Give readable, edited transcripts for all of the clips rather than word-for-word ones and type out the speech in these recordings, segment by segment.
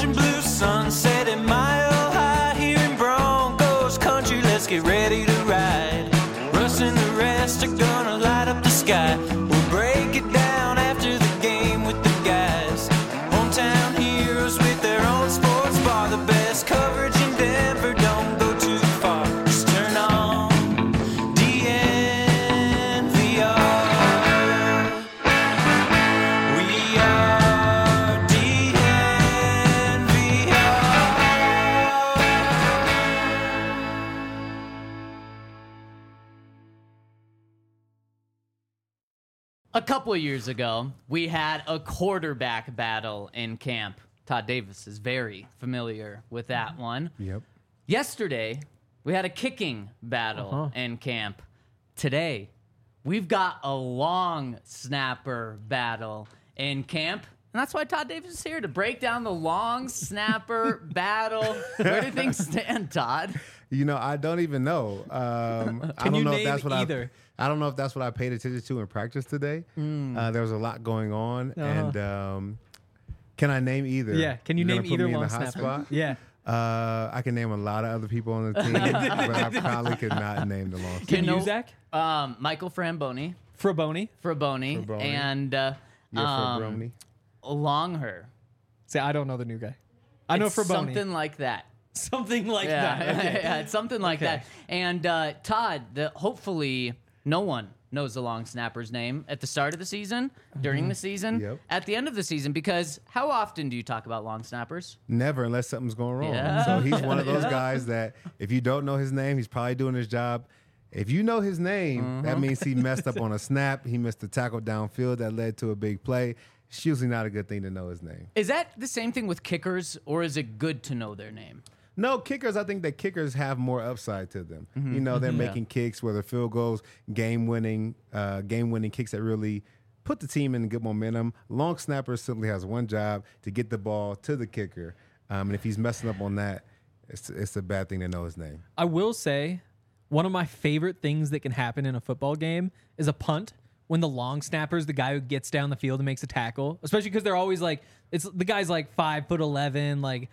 orange and blue sunset at Mile High here in Broncos country. Let's get ready to ride. Russ and the rest are gonna light up the sky. We'll break it down after the game with the guys. Hometown heroes with their own sports bar. The best coverage in Denver, don't go too far. Just turn on DNVR. We are A couple of years ago, we had a quarterback battle in camp. Todd Davis is very familiar with that one. Yep. Yesterday, we had a kicking battle in camp. Today, we've got a long snapper battle in camp. And that's why Todd Davis is here to break down the long snapper battle. Where do things stand, Todd? You know, I don't even know. I don't you know if name that's what either? I don't know if that's what I paid attention to in practice today. There was a lot going on, and can I name either? Yeah, can you You're name gonna put either me in long the hot snapper? spot? Yeah. I can name a lot of other people on the team, but I probably could not name the long snapper. Can you, Zach? Michael Framboni, Fraboni. and Yeah, for Brony. Longher. Say, I don't know the new guy. I know It's Fraboni. something like that. Something like Yeah, that. Okay. yeah, it's something like Okay. that. And Todd, hopefully no one knows the long snapper's name at the start of the season, during the season, Yep. at the end of the season, because how often do you talk about long snappers? Never, unless something's going wrong. Yeah. So he's one of those guys that if you don't know his name, he's probably doing his job. If you know his name, that means he messed up on a snap. He missed a tackle downfield that led to a big play. It's usually not a good thing to know his name. Is that the same thing with kickers, or is it good to know their name? No, kickers, I think that kickers have more upside to them. You know, they're making kicks, whether field goals, game-winning kicks that really put the team in good momentum. Long snapper simply has one job, to get the ball to the kicker. And if he's messing up on that, it's a bad thing to know his name. I will say, one of my favorite things that can happen in a football game is a punt. When the long snapper is the guy who gets down the field and makes a tackle, especially because they're always like, it's the guy's like 5'11", like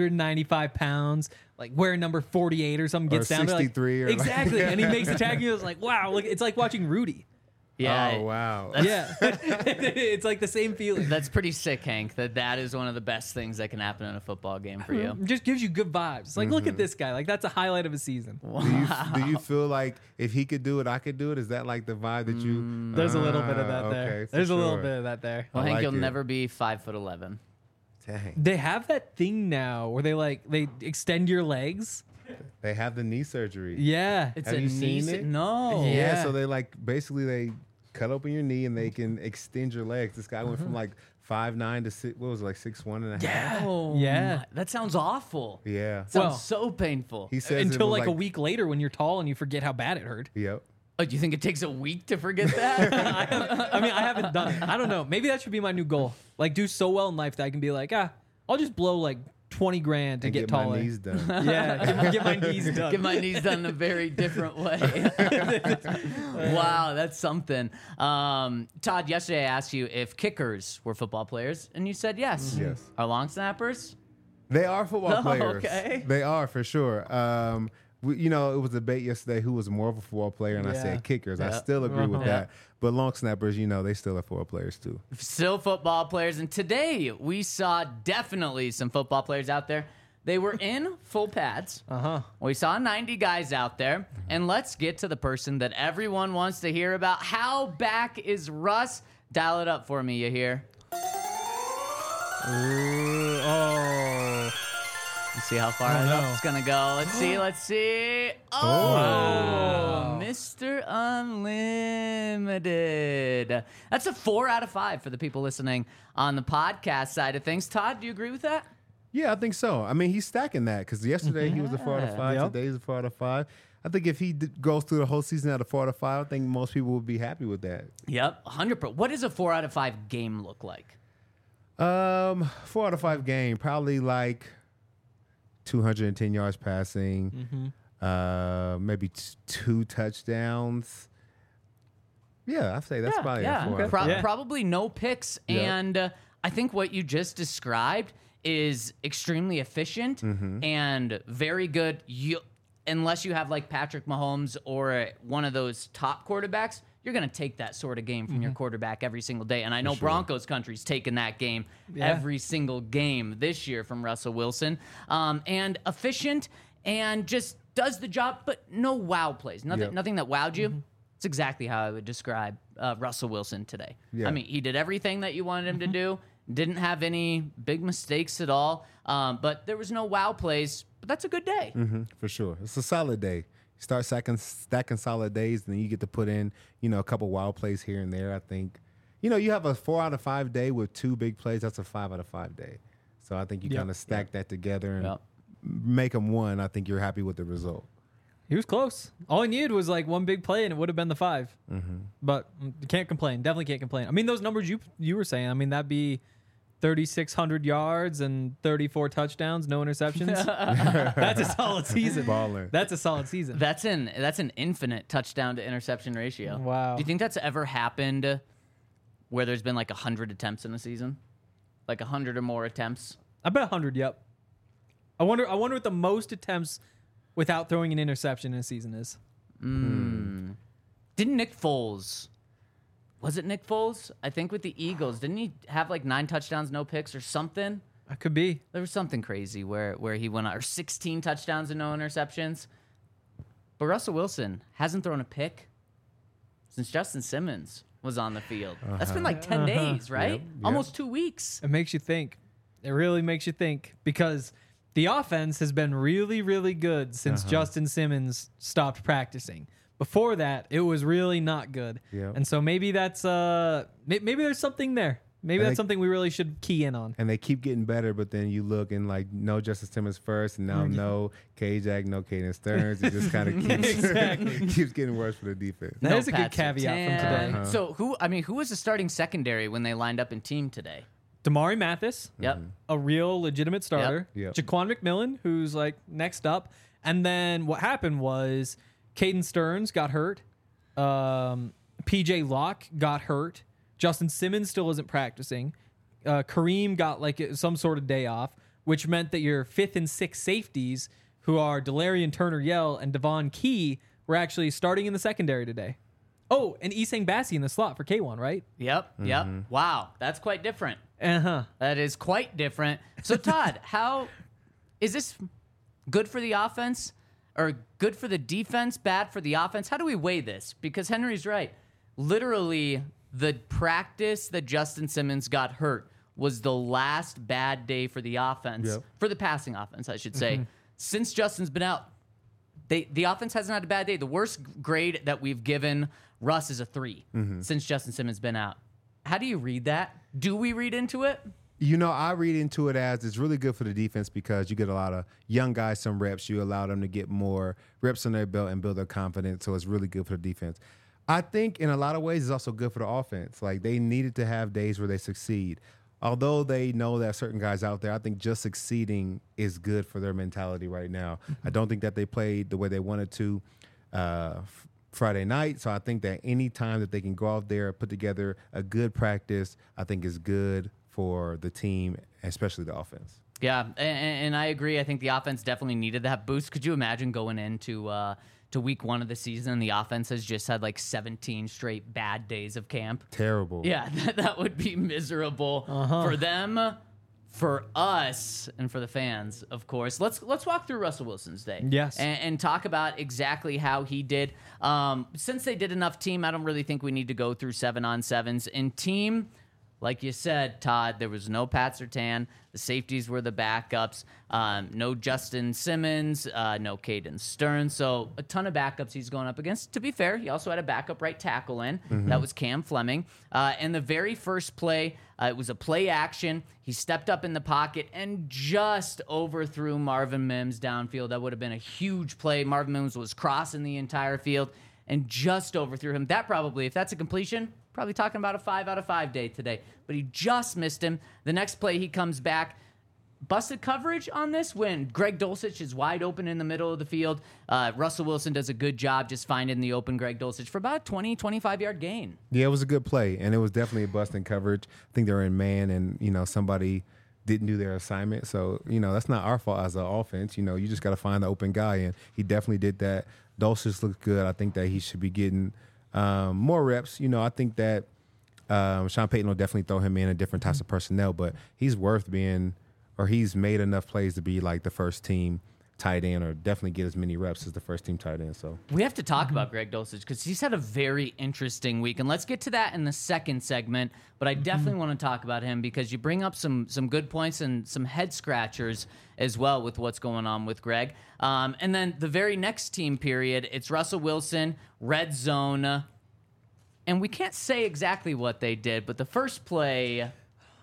195 pounds, like wearing number 48 or something, gets Or down there, like, 63 or like- exactly, and he makes a tackle. It's like, wow, look, it's like watching Rudy. Yeah. Oh, wow. Yeah, it's like the same feeling. That's pretty sick, Hank, that is one of the best things that can happen in a football game for you. It just gives you good vibes. It's like, look at this guy. Like, that's a highlight of a season. Do you feel like if he could do it, I could do it? Is that like the vibe that you... There's a little bit of that there. Okay, for There's a little sure. bit of that there. Well, I Hank, like you'll it. never be 5'11". Dang. They have that thing now where they extend your legs. They have the knee surgery. Yeah. It's Have a you knee. seen it? No. Yeah, Yeah. so they basically they cut open your knee and they can extend your legs. This guy went from like 5'9" to 6, what was it, like 6'1" and a half? Oh, Yeah. my- that sounds awful. Yeah. Sounds Well, so painful. He says it Until was like a week later when you're tall and you forget how bad it hurt. Yep. Oh, do you think it takes a week to forget that? I mean, I haven't done it. I don't know. Maybe that should be my new goal. Like, do so well in life that I can be like, I'll just blow like 20 grand to And get get taller. my knees done. Yeah, get my knees done. Get my knees done in a very different way. Wow, that's something. Todd, yesterday I asked you if kickers were football players, and you said yes. Yes. Are long snappers? They are football Oh, players. okay. They are for sure. It was a debate yesterday who was more of a football player, and I Yeah. said kickers. I Yeah. still agree with Yeah. that. But long snappers, they still are football players too. Still football players. And today we saw definitely some football players out there. They were in full pads. We saw 90 guys out there. And let's get to the person that everyone wants to hear about. How back is Russ? Dial it up for me, you hear? Oh. Let's see how far Oh, no. up it's going to go. Let's see. Oh, Mr. Unlimited. That's a 4 out of 5 for the people listening on the podcast side of things. Todd, do you agree with that? Yeah, I think so. I mean, he's stacking that because yesterday he was a 4 out of 5. Yep. Today he's a 4 out of 5. I think if he goes through the whole season at a 4 out of 5, I think most people would be happy with that. Yep, 100%. What does a 4 out of 5 game look like? 4 out of 5 game, probably like 210 yards passing, maybe 2 touchdowns. Yeah, I'd say that's probably a 4 out of 5. Yeah. Probably no picks. Yeah. And I think what you just described is extremely efficient and very good. Unless you have like Patrick Mahomes or one of those top quarterbacks, you're going to take that sort of game from your quarterback every single day. And I know Broncos country's taken that game every single game this year from Russell Wilson. And efficient and just does the job, but no wow plays. Nothing that wowed you. It's exactly how I would describe Russell Wilson today. Yeah. I mean, he did everything that you wanted him to do. Didn't have any big mistakes at all. But there was no wow plays. But that's a good day. For sure. It's a solid day. You start stacking solid days, and then you get to put in, a couple wild plays here and there. I think, you have a 4 out of 5 day with 2 big plays. That's a 5 out of 5 day. So I think you kind of stack that together and make them one. I think you're happy with the result. He was close. All he needed was like one big play, and it would have been the 5. But you can't complain. Definitely can't complain. I mean, those numbers you were saying, I mean, that'd be 3,600 yards and 34 touchdowns, no interceptions. That's a solid season. Baller. That's a solid season. That's an infinite touchdown to interception ratio. Wow. Do you think that's ever happened where there's been like 100 attempts in a season? Like 100 or more attempts? I bet 100, yep. I wonder what the most attempts without throwing an interception in a season is. Didn't Nick Foles... Was it Nick Foles? I think with the Eagles. Didn't he have like 9 touchdowns, no picks or something? That could be. There was something crazy where he went out, or 16 touchdowns and no interceptions. But Russell Wilson hasn't thrown a pick since Justin Simmons was on the field. That's been like 10 days, right? Yep. Almost 2 weeks. It makes you think. It really makes you think because the offense has been really, really good since Justin Simmons stopped practicing. Before that, it was really not good. Yeah. And so maybe that's maybe there's something there. Maybe that's something we really should key in on. And they keep getting better, but then you look and like no Justice Simmons first, and now no K-Jack, no Caden Stearns. It just kind of keeps keeps getting worse for the defense. That is a good Pat caveat from today. So who was the starting secondary when they lined up in team today? Damari Mathis, Yep. a real legitimate starter. Yep. Jaquan McMillan, who's like next up. And then what happened was Caden Stearns got hurt. PJ Locke got hurt. Justin Simmons still isn't practicing. Kareem got like some sort of day off, which meant that your 5th and 6th safeties, who are Delarian Turner-Yell and Devon Key, were actually starting in the secondary today. Oh, and Isang Bassi in the slot for K1, right? Yep. Wow, that's quite different. Uh-huh. That is quite different. So Todd, how is this good for the offense or good for the defense, bad for the offense? How do we weigh this? Because Henry's right. Literally, the practice that Justin Simmons got hurt was the last bad day for the offense, for the passing offense, I should say. Since Justin's been out, the offense hasn't had a bad day. The worst grade that we've given Russ is a 3 since Justin Simmons been out. How do you read that? Do we read into it? I read into it as it's really good for the defense because you get a lot of young guys some reps. You allow them to get more reps on their belt and build their confidence. So it's really good for the defense. I think in a lot of ways it's also good for the offense. Like they needed to have days where they succeed. Although they know that certain guys out there, I think just succeeding is good for their mentality right now. I don't think that they played the way they wanted to Friday night. So I think that any time that they can go out there, put together a good practice, I think is good for the team, especially the offense. Yeah, and I agree. I think the offense definitely needed that boost. Could you imagine going into to week 1 of the season and the offense has just had like 17 straight bad days of camp? Terrible. Yeah, that would be miserable for them, for us, and for the fans, of course. Let's walk through Russell Wilson's day. Yes. And talk about exactly how he did. Since they did enough team, I don't really think we need to go through 7-on-7s. In team, like you said, Todd, there was no Pat Surtain. The safeties were the backups. No Justin Simmons, no Caden Stearns. So a ton of backups he's going up against. To be fair, he also had a backup right tackle in. That was Cam Fleming. And the very first play, it was a play action. He stepped up in the pocket and just overthrew Marvin Mims downfield. That would have been a huge play. Marvin Mims was crossing the entire field and just overthrew him. That probably, if that's a completion, probably talking about a 5 out of 5 day today. But he just missed him. The next play, he comes back. Busted coverage on this when Greg Dulcich is wide open in the middle of the field. Russell Wilson does a good job just finding the open Greg Dulcich for about a 20, 25-yard gain. Yeah, it was a good play, and it was definitely a busting coverage. I think they were in man, and somebody didn't do their assignment. So, that's not our fault as an offense. You just got to find the open guy, and he definitely did that. Dulcich looked good. I think that he should be getting more reps. I think that Sean Payton will definitely throw him in different types of personnel, but he's worth being, or he's made enough plays to be like the first team tight end, or definitely get as many reps as the first team tight end. So we have to talk about Greg Dulcich because he's had a very interesting week, and let's get to that in the second segment. But I definitely want to talk about him because you bring up some good points and some head scratchers as well with what's going on with Greg. And then the very next team period, it's Russell Wilson, red zone, and we can't say exactly what they did, but the first play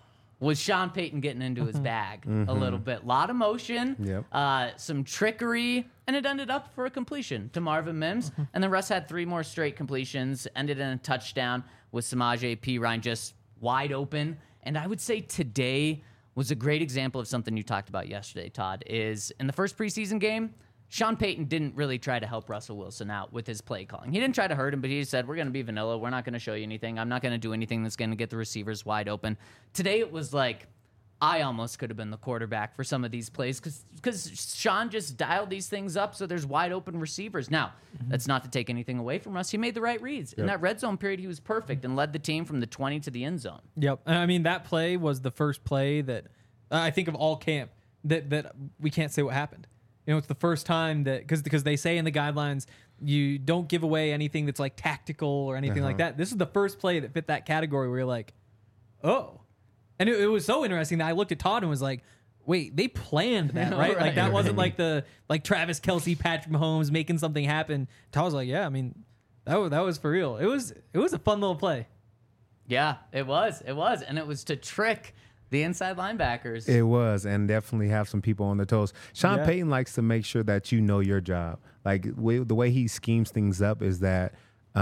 was Sean Payton getting into his bag a little bit. A lot of motion, some trickery, and it ended up for a completion to Marvin Mims. And then Russ had 3 more straight completions, ended in a touchdown with Samaje Perine just wide open. And I would say today was a great example of something you talked about yesterday, Todd, is in the first preseason game, Sean Payton didn't really try to help Russell Wilson out with his play calling. He didn't try to hurt him, but he said, we're going to be vanilla. We're not going to show you anything. I'm not going to do anything that's going to get the receivers wide open. Today it was like, I almost could have been the quarterback for some of these plays because Sean just dialed these things up so there's wide open receivers. Now, that's not to take anything away from Russ. He made the right reads. In that red zone period, he was perfect and led the team from the 20 to the end zone. Yep. I mean, that play was the first play that I think of all camp that we can't say what happened. It's the first time that because they say in the guidelines you don't give away anything that's like tactical or anything like that. This is the first play that fit that category where you're like, oh. And it was so interesting that I looked at Todd and was like, wait, they planned that, right? Like that wasn't like Travis Kelce, Patrick Mahomes making something happen. Todd was like, yeah, I mean, that was for real. It was a fun little play. Yeah, it was. And it was to trick the inside linebackers. It was, and definitely have some people on their toes. Sean Payton likes to make sure that you know your job. Like the way he schemes things up is that,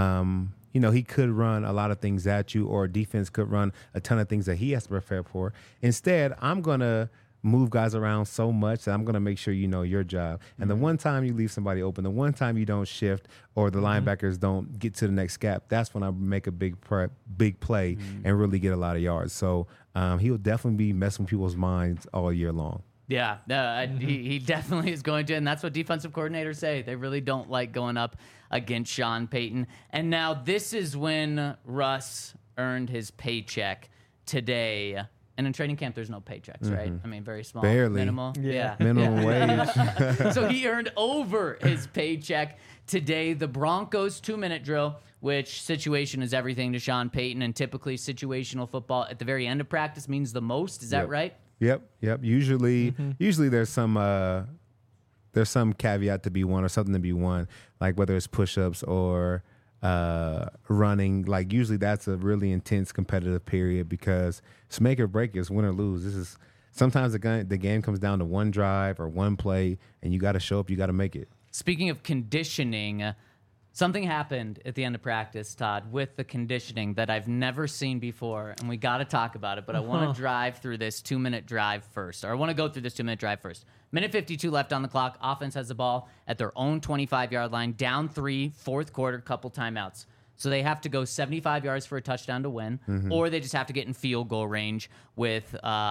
he could run a lot of things at you, or defense could run a ton of things that he has to prepare for. Instead, I'm going to move guys around so much that I'm going to make sure you know your job. And the one time you leave somebody open, the one time you don't shift or the linebackers don't get to the next gap, that's when I make a big play and really get a lot of yards. So he'll definitely be messing with people's minds all year long. Yeah, he definitely is going to, and that's what defensive coordinators say. They really don't like going up against Sean Payton. And now this is when Russ earned his paycheck today. And in training camp, there's no paychecks, right? I mean, very small. Barely. Minimal. Yeah. Minimum wage. So he earned over his paycheck today. The Broncos 2-minute drill, which situation is everything to Sean Payton, and typically situational football at the very end of practice means the most. Is that right? Yep. Usually there's some caveat to be won or something to be won, like whether it's push-ups or running. Like usually that's a really intense competitive period because it's make or break, it's win or lose. This is sometimes the game comes down to one drive or one play, and you got to show up, you got to make it. Speaking of conditioning, something happened at the end of practice, Todd, with the conditioning that I've never seen before, and we got to talk about it, but I want to drive through this 2-minute drive first, or I want to go through this 2-minute drive first. Minute 52 left on the clock. Offense has the ball at their own 25-yard line, down 3, fourth quarter, couple timeouts. So they have to go 75 yards for a touchdown to win, or they just have to get in field goal range with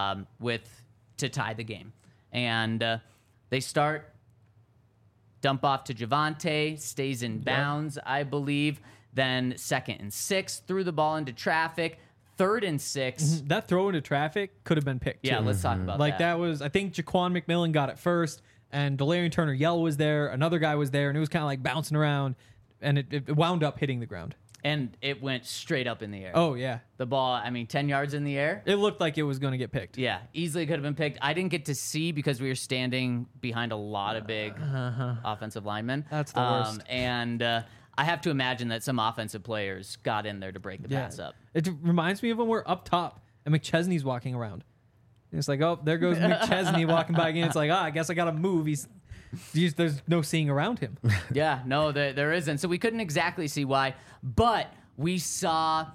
to tie the game. And they start, dump off to Javonte, stays in bounds, I believe. Then 2nd and 6, threw the ball into traffic. 3rd and 6. That throw into traffic could have been picked. Yeah, let's talk about that. That was, I think Jaquan McMillan got it first, and Delarian Turner-Yell was there. Another guy was there, and it was kind of like bouncing around, and it wound up hitting the ground. And it went straight up in the air. Oh, yeah. The ball, 10 yards in the air. It looked like it was going to get picked. Yeah, easily could have been picked. I didn't get to see because we were standing behind a lot of big offensive linemen. That's the worst. And I have to imagine that some offensive players got in there to break the pass up. It reminds me of when we're up top and McChesney's walking around. And it's like, oh, there goes McChesney walking by again. It's like, I guess I got to move. There's no seeing around him. Yeah, no, there isn't. So we couldn't exactly see why, but we saw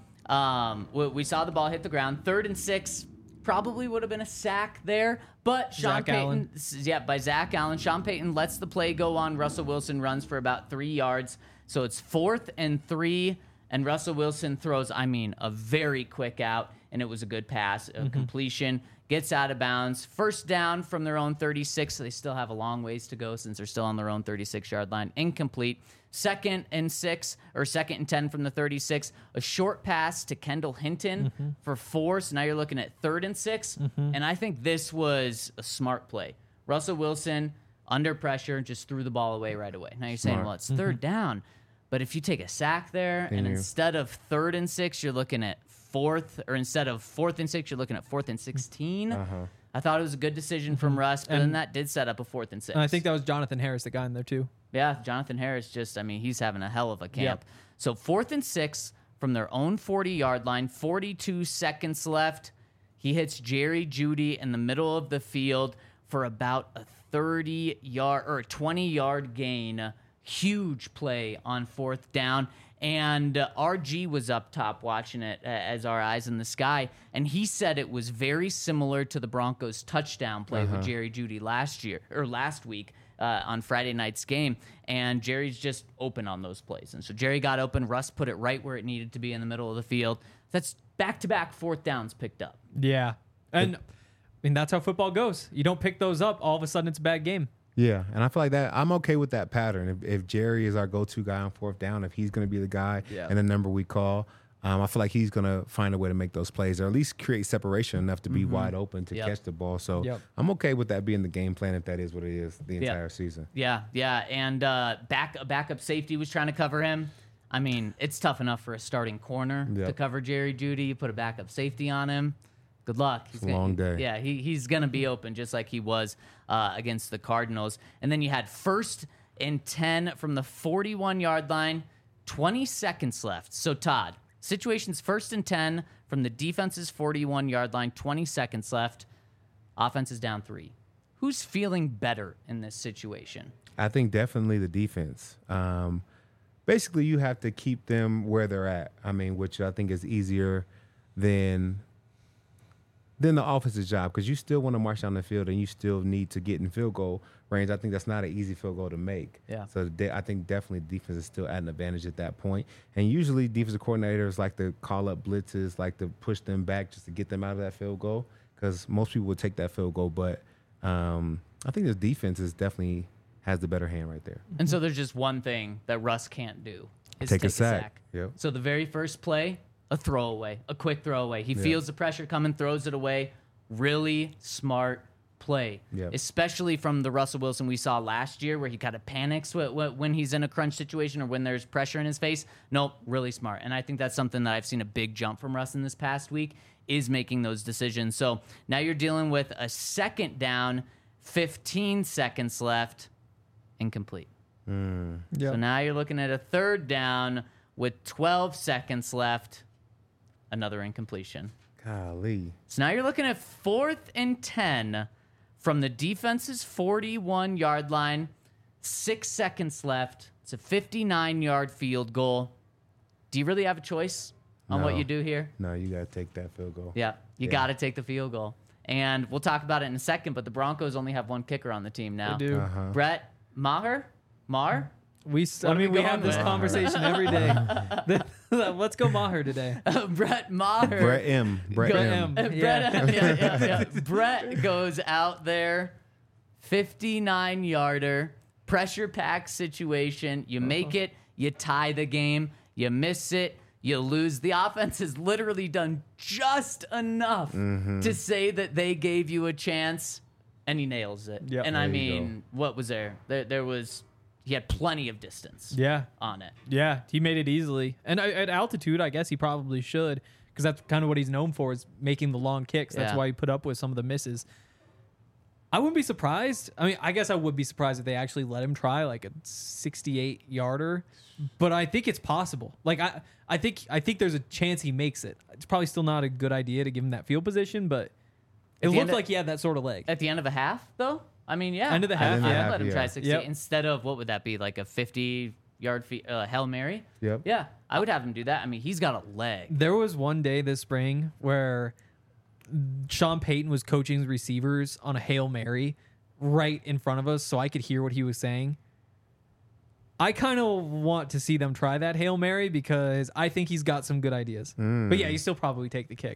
the ball hit the ground. 3rd and 6 probably would have been a sack there, but Sean Payton, by Zach Allen. Sean Payton lets the play go on. Russell Wilson runs for about 3 yards. So it's 4th and 3, and Russell Wilson throws, a very quick out, and it was a good pass, a completion. gets out of bounds. First down from their own 36, so they still have a long ways to go since they're still on their own 36-yard line. Incomplete. 2nd and 6 or 2nd and 10 from the 36. A short pass to Kendall Hinton for 4. So now you're looking at 3rd and 6. And I think this was a smart play. Russell Wilson, under pressure, just threw the ball away right away. Now you're saying, Smart. well, it's 3rd down. But if you take a sack there, and instead of 3rd and 6, you're looking at 4th, or instead of 4th and 6, you're looking at 4th and 16. I thought it was a good decision from Russ, but then that did set up a 4th and 6. And I think that was Jonathan Harris that got in there too. Yeah, Jonathan Harris he's having a hell of a camp. So 4th and 6 from their own 40-yard line, 42 seconds left. He hits Jerry Jeudy in the middle of the field for about a 30-yard or 20-yard gain. Huge play on 4th down. And RG was up top watching it as our eyes in the sky, and he said it was very similar to the Broncos' touchdown play with Jerry Jeudy last week on Friday night's game. And Jerry's just open on those plays, and so Jerry got open. Russ put it right where it needed to be in the middle of the field. That's back-to-back 4th downs picked up. Yeah, and I mean that's how football goes. You don't pick those up, all of a sudden it's a bad game. Yeah, and I feel like that I'm okay with that pattern. If Jerry is our go-to guy on 4th down, if he's going to be the guy and the number we call, I feel like he's going to find a way to make those plays or at least create separation enough to be wide open to catch the ball. So I'm okay with that being the game plan if that is what it is the entire season. Yeah, and backup safety was trying to cover him. I mean, it's tough enough for a starting corner to cover Jerry Jeudy. You put a backup safety on him. Good luck. It's a long day. Yeah, he's going to be open just like he was against the Cardinals. And then you had 1st and 10 from the 41-yard line, 20 seconds left. So, Todd, situation's 1st and 10 from the defense's 41-yard line, 20 seconds left. Offense is down 3. Who's feeling better in this situation? I think definitely the defense. Basically, you have to keep them where they're at. I mean, which I think is easier than the offensive job because you still want to march down the field and you still need to get in field goal range. I think that's not an easy field goal to make. Yeah. So I think definitely defense is still at an advantage at that point. And usually defensive coordinators like to call up blitzes, like to push them back just to get them out of that field goal because most people would take that field goal. But I think the defense is definitely has the better hand right there. And so there's just one thing that Russ can't do is Take a sack. Yep. So the very first play, a throwaway, a quick throwaway. He feels the pressure coming, throws it away. Really smart play, especially from the Russell Wilson we saw last year where he kind of panics when he's in a crunch situation or when there's pressure in his face. Nope, really smart. And I think that's something that I've seen a big jump from Russ in this past week is making those decisions. So now you're dealing with a 2nd down, 15 seconds left, incomplete. So now you're looking at a 3rd down with 12 seconds left. Another incompletion. Golly. So now you're looking at 4th and 10 from the defense's 41-yard line. 6 seconds left. It's a 59-yard field goal. Do you really have a choice on what you do here? No, you got to take that field goal. Yeah, you got to take the field goal. And we'll talk about it in a second, but the Broncos only have one kicker on the team now. They do. Brett Maher? We have this conversation every day. Let's go Maher today. Brett Maher. Brett M. Brett goes out there, 59-yarder, pressure pack situation. You make it, you tie the game. You miss it, you lose. The offense has literally done just enough to say that they gave you a chance, and he nails it. Yep. And I mean, what was there? There was... He had plenty of distance on it. Yeah, he made it easily. And at altitude, I guess he probably should because that's kind of what he's known for is making the long kicks. That's why he put up with some of the misses. I wouldn't be surprised. I mean, I guess I would be surprised if they actually let him try like a 68-yarder. But I think it's possible. Like I think there's a chance he makes it. It's probably still not a good idea to give him that field position, but it looked like he had that sort of leg. At the end of a half, though? I mean, yeah. End of the half, I'd let him try 60 instead of, what would that be, like a 50-yard Hail Mary? Yep. Yeah, I would have him do that. I mean, he's got a leg. There was one day this spring where Sean Payton was coaching receivers on a Hail Mary right in front of us so I could hear what he was saying. I kind of want to see them try that Hail Mary because I think he's got some good ideas. But yeah, you still probably take the kick.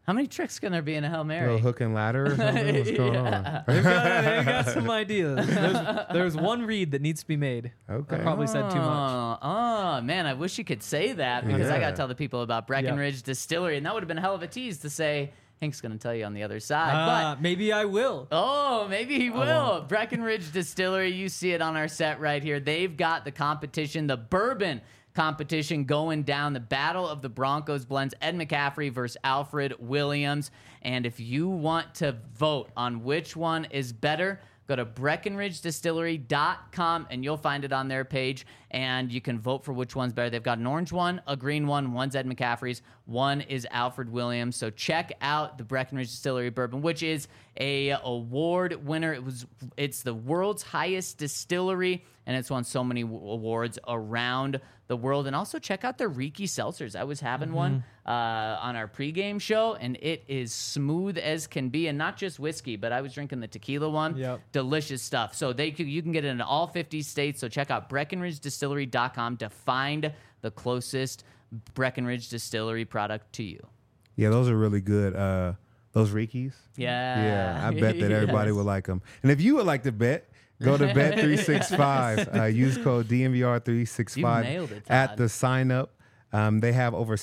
How many tricks can there be in a Hail A Mary? little hook and ladder or something? What's going on? They've got some ideas. There's one read that needs to be made. Okay. I probably said too much. Oh, man, I wish you could say that because I got Yeah. to tell the people about Breckenridge Distillery, and that would have been a hell of a tease to say, Hank's going to tell you on the other side. But Maybe I will. oh, maybe he will. Breckenridge Distillery, you see it on our set right here. They've got the competition, the bourbon competition going down, the Battle of the Broncos blends, Ed McCaffrey versus Alfred Williams. And if you want to vote on which one is better, go to BreckenridgeDistillery.com and you'll find it on their page, and you can vote for which one's better. They've got an orange one, a green one, one's Ed McCaffrey's, one is Alfred Williams. So check out the Breckenridge Distillery bourbon, which is a award winner. It's the world's highest distillery, and it's won so many awards around the world. And also check out their Riki seltzers. I was having one on our pregame show, and it is smooth as can be, and not just whiskey, but I was drinking the tequila one. Yep. Delicious stuff. So you can get it in all 50 states. So check out BreckenridgeDistillery.com to find the closest Breckenridge Distillery product to you. Yeah, those are really good. Those Rikis. Yeah. Yeah, I bet that everybody would like them. And if you would like to bet, go to Bet365. Use code You DNVR365 nailed it, at Todd. the sign up. They have over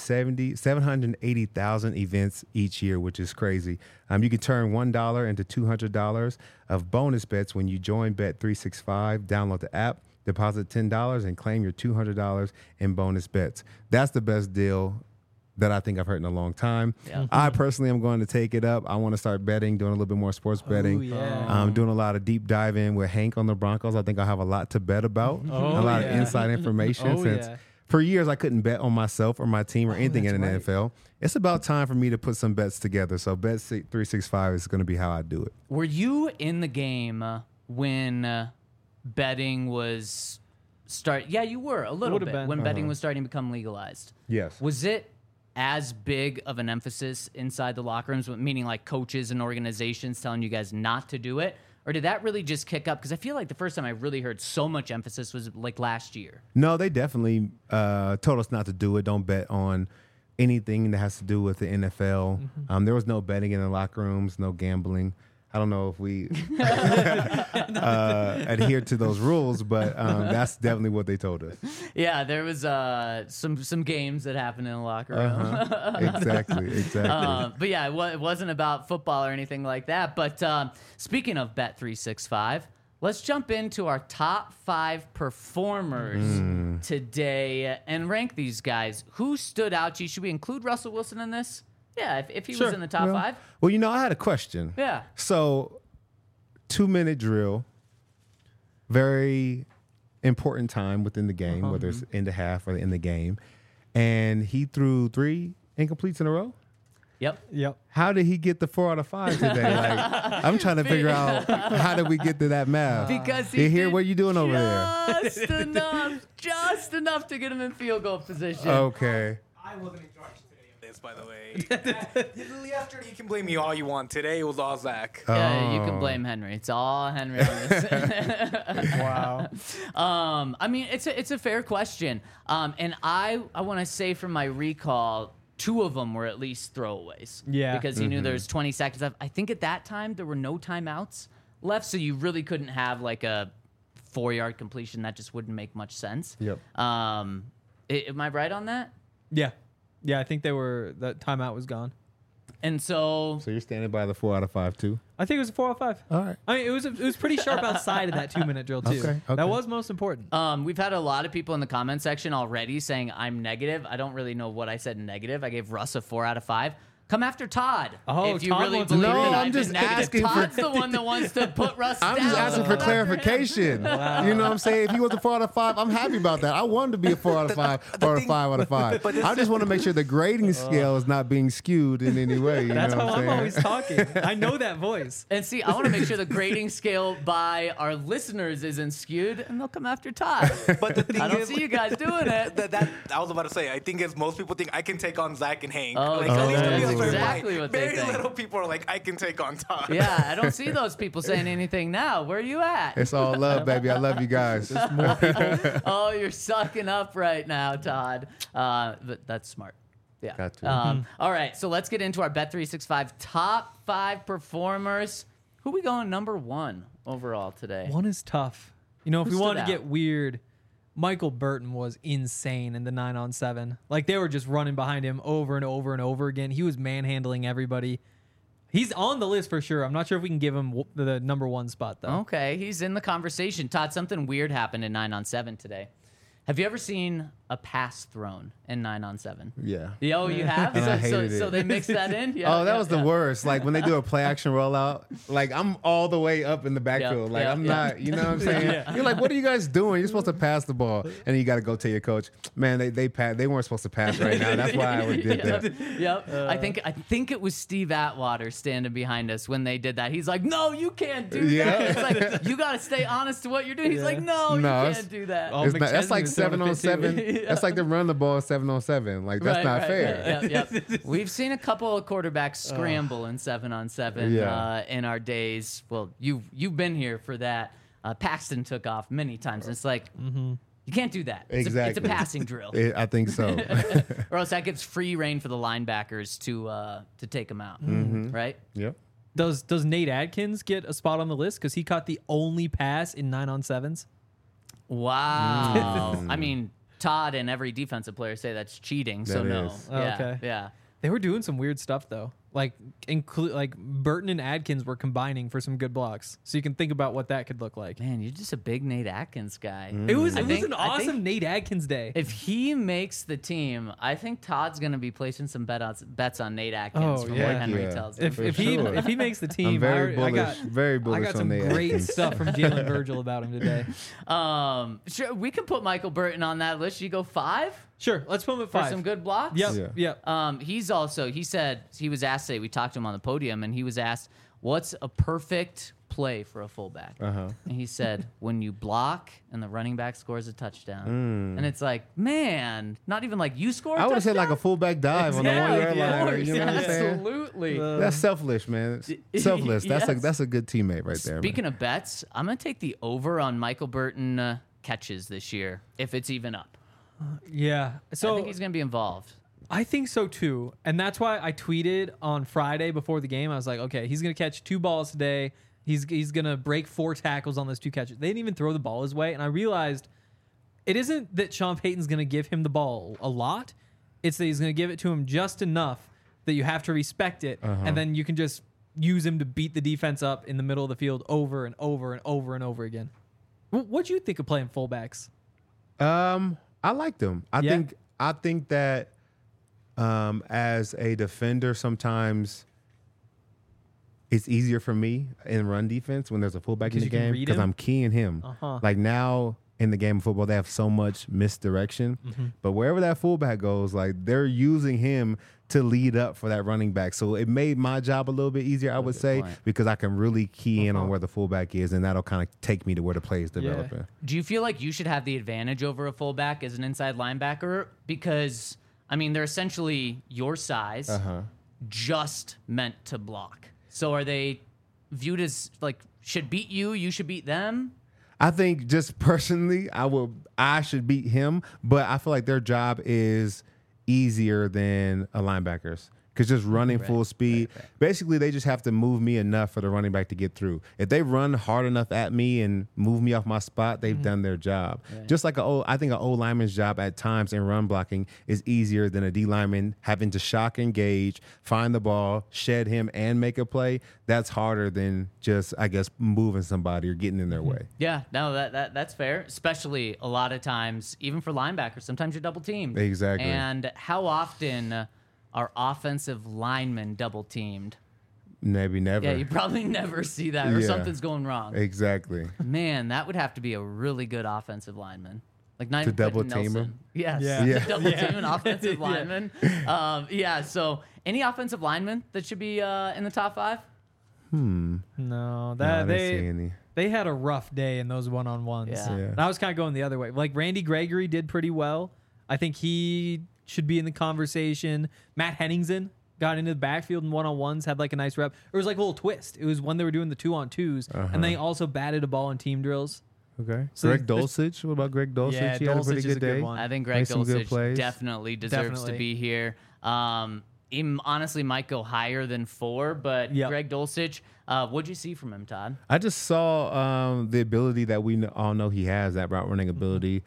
780,000 events each year, which is crazy. You can turn $1 into $200 of bonus bets when you join Bet365. Download the app, deposit $10, and claim your $200 in bonus bets. That's the best deal that I think I've heard in a long time. Yeah. I personally am going to take it up. I want to start betting, doing a little bit more sports betting. yeah. Doing a lot of deep dive in with Hank on the Broncos. I think I'll have a lot to bet about. A lot of inside information since for years I couldn't bet on myself or my team or anything in the NFL. It's about time for me to put some bets together. So Bet365 is going to be how I do it. Were you in the game when betting was Yeah, you were a little Would've bit been. when betting was starting to become legalized. Yes. Was it as big of an emphasis inside the locker rooms, meaning like coaches and organizations telling you guys not to do it? Or did that really just kick up? Because I feel like the first time I really heard so much emphasis was like last year. No, they definitely told us not to do it. Don't bet on anything that has to do with the NFL. There was no betting in the locker rooms, no gambling. I don't know if we adhere to those rules, but that's definitely what they told us. Yeah, there was some games that happened in the locker room. Exactly. But yeah, it wasn't about football or anything like that. But speaking of Bet365, let's jump into our top 5 performers today and rank these guys. Who stood out to you? Should we include Russell Wilson in this? Yeah, if he was in the top 5. Well, I had a question. Yeah. So, 2-minute drill, very important time within the game, whether it's in the half or in the game. And he threw 3 incompletes in a row. Yep. How did he get the 4 out of 5 today? Like, I'm trying to figure out how did we get to that math? Because he You hear did what you doing over there? just enough to get him in field goal position. Okay. I wasn't in charge today of this, by the way. Yesterday, you can blame me all you want. Today, it was all Zach. Yeah, you can blame Henry. It's all Henry on this. Wow. I mean, it's a fair question. And I want to say from my recall, 2 of them were at least throwaways. Yeah. Because he knew there was 20 seconds left. I think at that time there were no timeouts left, so you really couldn't have like a 4-yard completion. That just wouldn't make much sense. Yep. Am I right on that? Yeah. I think that timeout was gone. And so So you're standing by the 4 out of 5 too? I think it was a 4 out of 5. All right. I mean, it was pretty sharp outside of that 2-minute drill too. Okay. That was most important. we've had a lot of people in the comment section already saying I'm negative. I don't really know what I said negative. I gave Russ a 4 out of 5. Come after Todd. Oh, if you Todd really wants to believe No, that I'm I've just been negative. asking for- Todd's the one that wants to put Russ I'm down. just asking for Come after him. clarification. You know what I'm saying? If he was a 4 out of 5, I'm happy about that. I wanted to be a 4 out of 5 or a 5 out of 5. I just want to make sure the grading scale is not being skewed in any way. You That's know how what I'm I'm saying? always talking. I know that voice. And see, I want to make sure the grading scale by our listeners isn't skewed, and they'll come after Todd. But the thing I don't is, see you guys doing it. that I was about to say, I think as most people think I can take on Zach and Hank. Oh, at least to be a that's certain exactly point. what they Very think. little people are like, I can take on Todd. Yeah, I don't see those people saying anything now. Where are you at? It's all love, baby. I love you guys. Oh, you're sucking up right now, Todd. But that's smart. Yeah. Got to. All right, so let's get into our Bet365 top 5 performers. Who we going number 1 overall today? One is tough. You know, if Who we want to stood get out? weird, Michael Burton was insane in the 9-on-7. Like, they were just running behind him over and over and over again. He was manhandling everybody. He's on the list for sure. I'm not sure if we can give him the number 1 spot, though. Okay, he's in the conversation. Todd, something weird happened in 9-on-7 today. Have you ever seen a pass thrown in 9-on-7? Yeah. Oh, you have? And I So, hated so it. they mixed that in? Yeah, Oh, that yeah, was the yeah. worst. Like when they do a play action rollout, like I'm all the way up in the backfield. Like yeah, I'm yeah. not, you know what I'm saying? You're like, what are you guys doing? You're supposed to pass the ball, and then you got to go tell your coach, man, they weren't supposed to pass right now. That's why I did that. Yep. I think it was Steve Atwater standing behind us when they did that. He's like, "No, you can't do Yeah. that." It's like you got to stay honest to what you're doing. He's like, "No, you No, can't do that." Oh, It's not, that's McChesney like was throwing a fit, too. 7-on-7. That's like them run the ball 7-on-7. Like that's not fair. Yep. We've seen a couple of quarterbacks scramble in 7-on-7 Yeah. in our days. Well, you've been here for that. Paxton took off many times. And it's like you can't do that. It's a Exactly. passing drill, I think so. or else that gives free reign for the linebackers to take them out, right? Yep. Does Nate Adkins get a spot on the list because he caught the only pass in 9-on-7s? Wow. I mean, Todd and every defensive player say that's cheating. So That no. is. Oh, Yeah. okay. Yeah. They were doing some weird stuff though. Like Burton and Adkins were combining for some good blocks. So you can think about what that could look like. Man, you're just a big Nate Atkins guy. It was I think- an I think- awesome Nate Adkins day. If he makes the team, I think Todd's going to be placing some bets on Nate Atkins Oh, from yeah. what Henry Yeah. tells him. If, For if sure. he makes the team, I'm very I bullish. got Very bullish I got on some Nate great Atkins. stuff from Jalen Virgil about him today. Sure, we can put Michael Burton on that list. You go 5 Sure, let's put him at for 5. some good blocks? Yep, Yeah. yep. He said, he was asked today, we talked to him on the podium, and he was asked, what's a perfect play for a fullback? Uh-huh. And he said, when you block and the running back scores a touchdown. And it's like, man, not even like you score a I would have said like a touchdown? fullback dive on the 1 yard Yeah, line. You know what I'm saying? absolutely. That's selfish, man. Selfless. Yes. That's a good teammate right there. Speaking of bets, I'm going to take the over on Michael Burton catches this year, if it's even up. Yeah. So I think he's going to be involved. I think so too. And that's why I tweeted on Friday before the game. I was like, okay, he's going to catch 2 balls today. He's going to break 4 tackles on those 2 catches. They didn't even throw the ball his way. And I realized it isn't that Sean Payton's going to give him the ball a lot. It's that he's going to give it to him just enough that you have to respect it. And then you can just use him to beat the defense up in the middle of the field over and over and over and over again. What do you think of playing fullbacks? I like them. I think that as a defender, sometimes it's easier for me in run defense when there's a fullback in Because the you can game read because him? I'm keying him. Like now in the game of football, they have so much misdirection, but wherever that fullback goes, like they're using him to lead up for that running back. So it made my job a little bit easier, I would say, point. because I can really key in on where the fullback is, and that'll kind of take me to where the play is developing. Do you feel like you should have the advantage over a fullback as an inside linebacker? Because, I mean, they're essentially your size, just meant to block. So are they viewed as, like, should beat you, you should beat them? I think just personally, I should beat him, but I feel like their job is easier than a linebacker's because just running full speed, basically they just have to move me enough for the running back to get through. If they run hard enough at me and move me off my spot, they've done their job. Just like I think an O lineman's job at times in run blocking is easier than a D lineman having to shock engage, find the ball, shed him, and make a play. That's harder than just, I guess, moving somebody or getting in their way. Yeah, no, that's fair. Especially a lot of times, even for linebackers, sometimes you're double teamed. Exactly. And how often are offensive linemen double teamed? Maybe never. Yeah, you probably never see that, or Yeah. something's going wrong. Exactly. Man, that would have to be a really good offensive lineman. Like not To even double Quentin team Nelson. him? Yes. Yeah. Yeah. Double team an offensive lineman. Yeah. So any offensive lineman that should be in the top 5? No, No, I that didn't see any. they had a rough day in those one-on-ones. Yeah. Yeah. And I was kind of going the other way. Like Randy Gregory did pretty well. I think he should be in the conversation. Matt Henningsen got into the backfield in one-on-ones, had like a nice rep. It was like a little twist. It was when they were doing the 2-on-2s, and they also batted a ball in team drills. Okay. So Greg there's- Dulcich. What about Greg Dulcich? Yeah, he had a pretty Dulcich is good a good day. one. I think Greg Made some good Dulcich plays. definitely deserves to Definitely. be here. He honestly might go higher than 4, but Yep. Greg Dulcich, what'd you see from him, Todd? I just saw the ability that we all know he has, that route running ability,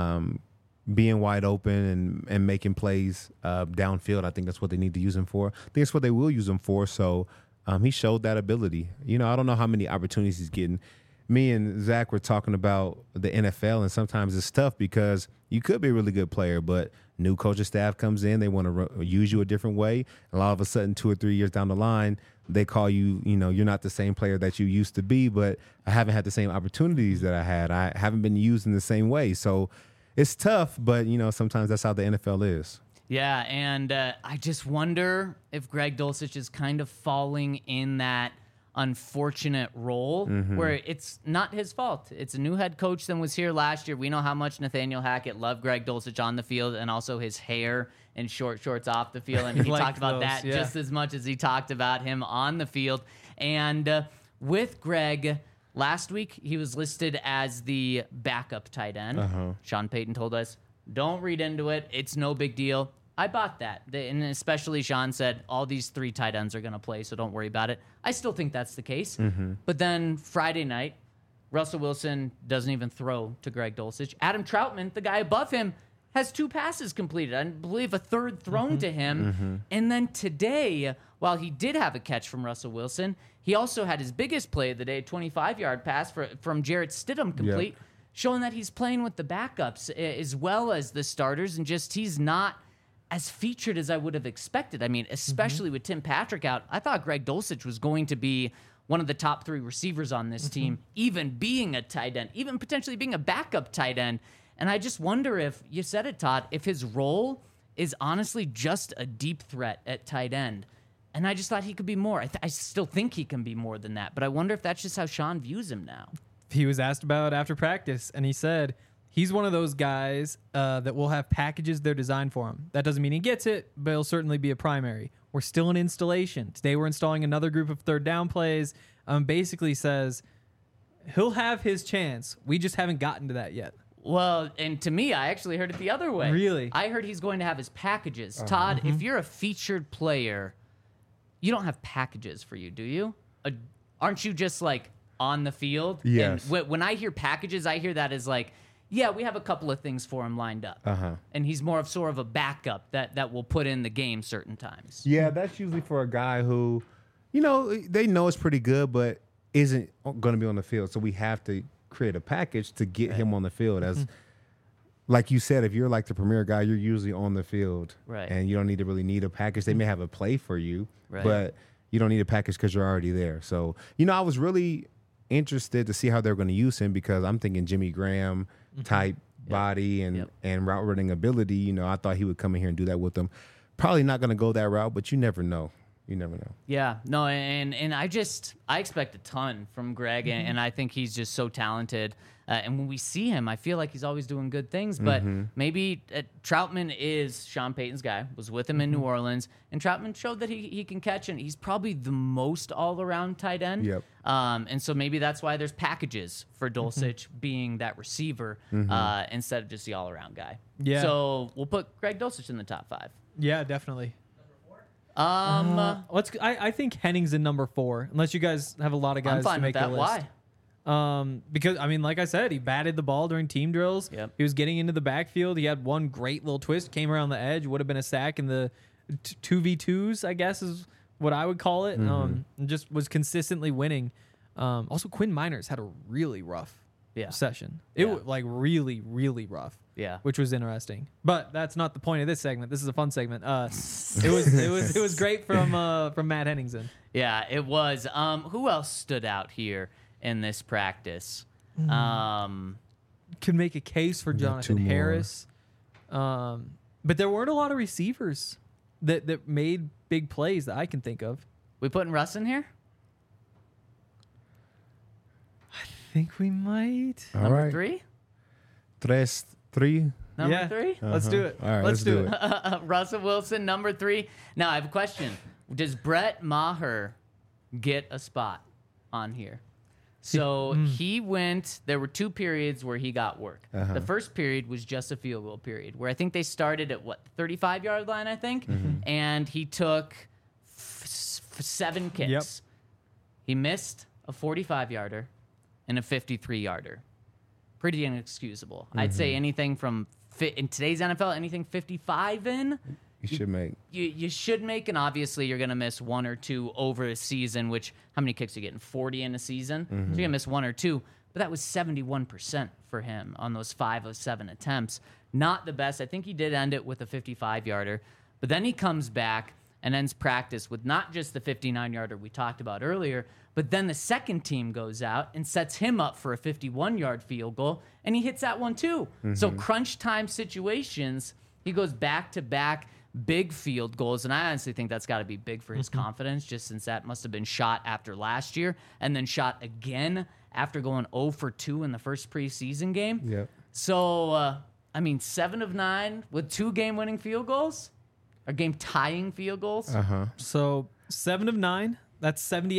being wide open and making plays downfield. I think that's what they need to use him for. I think that's what they will use him for. So he showed that ability. You know, I don't know how many opportunities he's getting. Me and Zach were talking about the NFL, and sometimes it's tough because you could be a really good player, but new coaching staff comes in, they want to use you a different way, and all of a sudden 2 or 3 years down the line, they call you, you know, you're not the same player that you used to be, but I haven't had the same opportunities that I had. I haven't been used in the same way. So it's tough, but, you know, sometimes that's how the NFL is. Yeah, and I just wonder if Greg Dulcich is kind of falling in that unfortunate role where it's not his fault. It's a new head coach than was here last year. We know how much Nathaniel Hackett loved Greg Dulcich on the field and also his hair and short shorts off the field. And he talked about that just as much as he talked about him on the field. And with Greg, last week he was listed as the backup tight end. Sean Payton told us, don't read into it. It's no big deal. I bought that. And especially Sean said, all these 3 tight ends are going to play, so don't worry about it. I still think that's the case. But then Friday night, Russell Wilson doesn't even throw to Greg Dulcich. Adam Troutman, the guy above him, has 2 passes completed. I believe a 3rd thrown to him. And then today, while he did have a catch from Russell Wilson, he also had his biggest play of the day, 25-yard pass from Jarrett Stidham complete, showing that he's playing with the backups as well as the starters, and just he's not as featured as I would have expected. I mean, especially with Tim Patrick out, I thought Greg Dulcich was going to be one of the top 3 receivers on this team, even being a tight end, even potentially being a backup tight end. And I just wonder if, you said it, Todd, if his role is honestly just a deep threat at tight end. And I just thought he could be more. I still think he can be more than that, but I wonder if that's just how Sean views him now. He was asked about after practice, and he said he's one of those guys that will have packages they're designed for him. That doesn't mean he gets it, but he'll certainly be a primary. We're still in installation. Today we're installing another group of 3rd down plays. Basically says he'll have his chance. We just haven't gotten to that yet. Well, and to me, I actually heard it the other way. Really? I heard he's going to have his packages. Todd, if you're a featured player, you don't have packages for you, do you? Aren't you just like on the field? Yes. And when I hear packages, I hear that as like, yeah, we have a couple of things for him lined up. And he's more of sort of a backup that will put in the game certain times. Yeah, that's usually for a guy who, you know, they know it's pretty good, but isn't going to be on the field. So we have to create a package to get him on the field. As like you said, if you're like the premier guy, you're usually on the field. Right. And you don't need a package. They may have a play for you, Right. but you don't need a package because you're already there. So, you know, I was really interested to see how they're going to use him because I'm thinking Jimmy Graham type body and route running ability. You know, I thought he would come in here and do that with them. Probably not going to go that route, but you never know. You never know. Yeah, no, and I expect a ton from Greg, and I think he's just so talented. And when we see him, I feel like he's always doing good things. But maybe Troutman is Sean Payton's guy, was with him in New Orleans, and Troutman showed that he can catch, and he's probably the most all-around tight end. Yep. And so maybe that's why there's packages for Dulcich being that receiver instead of just the all-around guy. Yeah. So we'll put Greg Dulcich in the top 5. Yeah, definitely. I think Henning's in number 4, unless you guys have a lot of guys I'm fine to make with that. the list. Why? Because I mean, like I said, he batted the ball during team drills. Yep. He was getting into the backfield. He had one great little twist, came around the edge, would have been a sack in the 2v2s, I guess is what I would call it. And just was consistently winning. Also, Quinn Miners had a really rough session. It was like really, really rough. Yeah. Which was interesting. But that's not the point of this segment. This is a fun segment. It was great from Matt Henningsen. Yeah, it was. Who else stood out here in this practice? Could make a case for Jonathan Harris. But there weren't a lot of receivers that made big plays that I can think of. We putting Russ in here? I think we might. All Number right. 3? 3. Number 3? Let's do it. All right, let's do it. Russell Wilson, number 3. Now, I have a question. Does Brett Maher get a spot on here? So he went, there were 2 periods where he got work. The first period was just a field goal period, where I think they started at, 35-yard line, I think? And he took 7 kicks. Yep. He missed a 45-yarder and a 53-yarder. Pretty inexcusable. I'd say anything from, in today's NFL, anything 55 in, You should make. you should make, and obviously you're going to miss 1 or 2 over a season, which, how many kicks are you getting? 40 in a season? So you're going to miss 1 or 2, but that was 71% for him on those 5 of 7 attempts. Not the best. I think he did end it with a 55-yarder, but then he comes back and ends practice with not just the 59-yarder we talked about earlier, but then the second team goes out and sets him up for a 51-yard field goal, and he hits that one too. So crunch time situations, he goes back-to-back big field goals, and I honestly think that's got to be big for his confidence, just since that must have been shot after last year and then shot again after going 0 for 2 in the first preseason game. Yep. So, 7 of 9 with 2 game-winning field goals or game-tying field goals. So 7 of 9. That's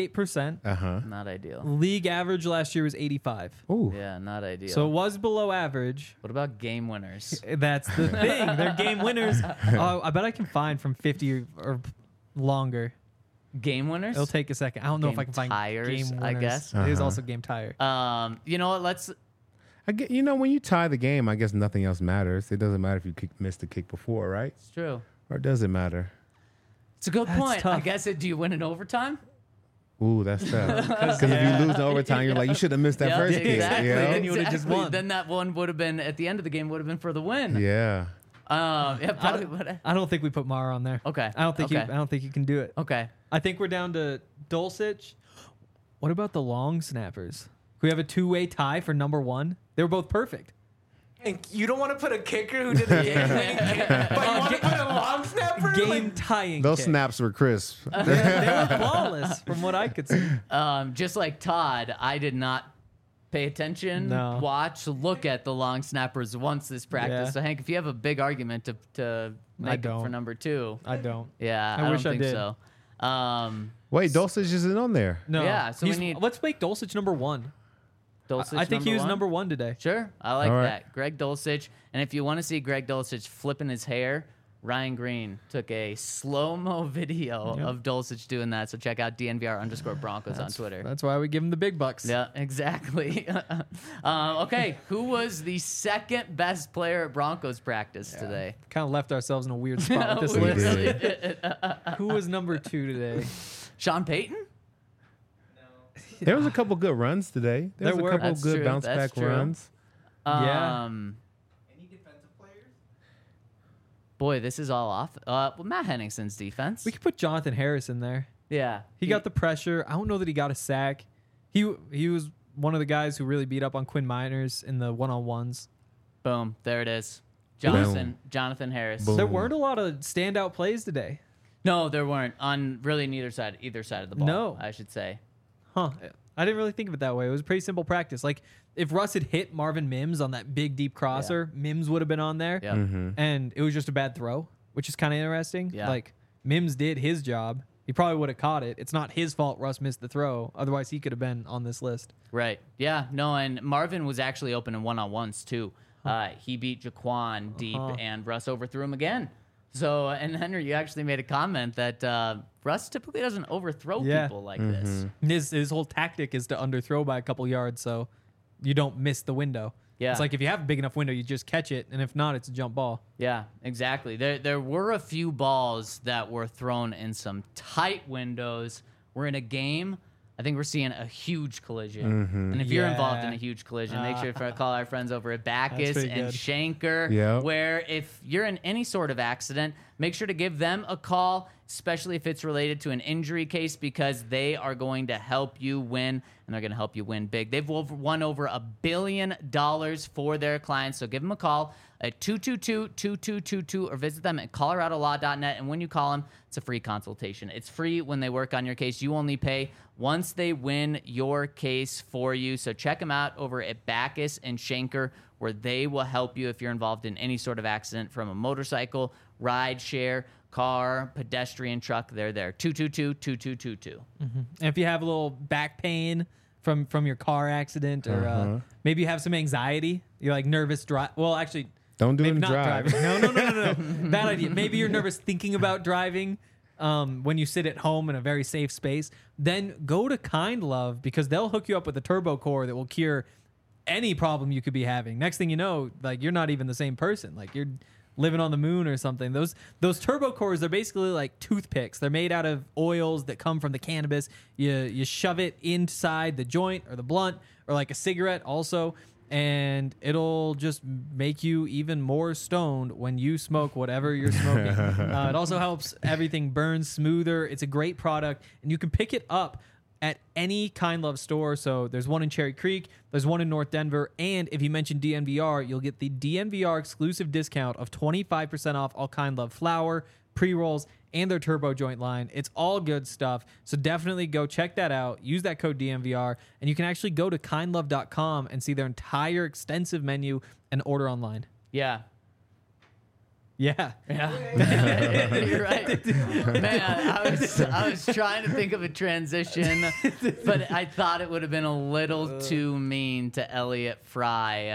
78%. Not ideal. League average last year was 85. Ooh. Yeah, not ideal. So it was below average. what about game winners? That's the thing. They're game winners. I bet I can find from 50 or longer. Game winners? It'll take a second. I don't know if Game I can find tires, game winners. I guess. It is also game tire. You know what? Let's. I get, when you tie the game, I guess nothing else matters. It doesn't matter if you missed the kick before, right? It's true. Or does it matter? It's a good That's point. I tough. guess do you win in overtime? Ooh, that's tough. Because if you lose in overtime, you're like, you should have missed that Yeah, first kick. exactly. You know? Then you would've just won. Then that one would have been at the end of the game. Would have been for the win. Yeah. Probably would. I don't think we put Mara on there. Okay. I don't think Okay. I don't think you can do it. Okay. I think we're down to Dulcich. What about the long snappers? We have a 2-way tie for number 1. They were both perfect. And you don't want to put a kicker who did a game-winning kick, but you want to put a long snapper? Game tying. Those kick. snaps were crisp. They were flawless from what I could see. Just like Todd, I did not pay attention, No. watch, look at the long snappers once this practice. Yeah. So Hank, if you have a big argument to make up for don't. number 2, I don't. yeah, I I wish don't I think did. so. Wait, Dulcich isn't on there. No. Yeah, so we He's- need- Let's make Dulcich number 1. Dulcich I think he was 1? number 1 today. Sure, I like All right. that. Greg Dulcich. And if you want to see Greg Dulcich flipping his hair, Ryan Green took a slow-mo video of Dulcich doing that. So check out DNVR_Broncos on Twitter. That's why we give him the big bucks. Yeah, exactly. Okay, who was the second best player at Broncos practice today? Kind of left ourselves in a weird spot with this We list. really did. Who was number 2 today? Sean Payton? There was a couple good runs today. There There was were. a couple That's good true. bounce That's back true. runs. Yeah. Any defensive players? Boy, this is all off. Well, Matt Henningsen's defense. We could put Jonathan Harris in there. Yeah. He got the pressure. I don't know that he got a sack. He was one of the guys who really beat up on Quinn Miners in the one-on-ones. Boom. There it is. Jonathan Harris. Boom. There weren't a lot of standout plays today. No, there weren't on really either side of the ball. No. I should say. Huh. I didn't really think of it that way. It was a pretty simple practice. Like, if Russ had hit Marvin Mims on that big, deep crosser, Mims would have been on there. Yeah. And it was just a bad throw, which is kind of interesting. Yeah. Like, Mims did his job. He probably would have caught it. It's not his fault Russ missed the throw. Otherwise, he could have been on this list. Right. Yeah. No, and Marvin was actually open in one-on-ones too. He beat Jaquan deep, and Russ overthrew him again. So, and Henry, you actually made a comment that Russ typically doesn't overthrow people like this. His whole tactic is to underthrow by a couple yards so you don't miss the window. Yeah. It's like if you have a big enough window, you just catch it, and if not, it's a jump ball. Yeah, exactly. There were a few balls that were thrown in some tight windows. We're in a game. I think we're seeing a huge collision. And if you're involved in Yeah. a huge collision, make sure to call our friends over at Backus pretty and good. Shanker, Yep. where if you're in any sort of accident, make sure to give them a call, especially if it's related to an injury case, because they are going to help you win, and they're going to help you win big. They've won over $1 billion for their clients, so give them a call at 222-2222 or visit them at coloradolaw.net. And when you call them, it's a free consultation. It's free when they work on your case. You only pay once they win your case for you. So check them out over at Backus and Shanker, where they will help you if you're involved in any sort of accident, from a motorcycle, ride share, car, pedestrian, truck. They're there. 222-2222. And if you have a little back pain from your car accident, or maybe you have some anxiety. You're like nervous drive. Well, actually, Don't do it maybe and not drive. driving. No. Bad idea. Maybe you're nervous thinking about driving. When you sit at home in a very safe space, then go to Kind Love, because they'll hook you up with a turbo core that will cure any problem you could be having. Next thing you know, like, you're not even the same person. Like, you're living on the moon or something. Those turbo cores, they're basically like toothpicks. They're made out of oils that come from the cannabis. You shove it inside the joint or the blunt, or like a cigarette also, and it'll just make you even more stoned when you smoke whatever you're smoking. It also helps everything burn smoother. It's a great product, and you can pick it up at any Kind Love store. So there's one in Cherry Creek, there's one in North Denver, and if you mention DNVR, you'll get the DNVR exclusive discount of 25% off all Kind Love flower, pre-rolls, and their turbo joint line. It's all good stuff. So definitely go check that out. Use that code DNVR, and you can actually go to kindlove.com and see their entire extensive menu and order online. Yeah. Yeah. You're right. Man, I was trying to think of a transition, but I thought it would have been a little too mean to Elliot Fry.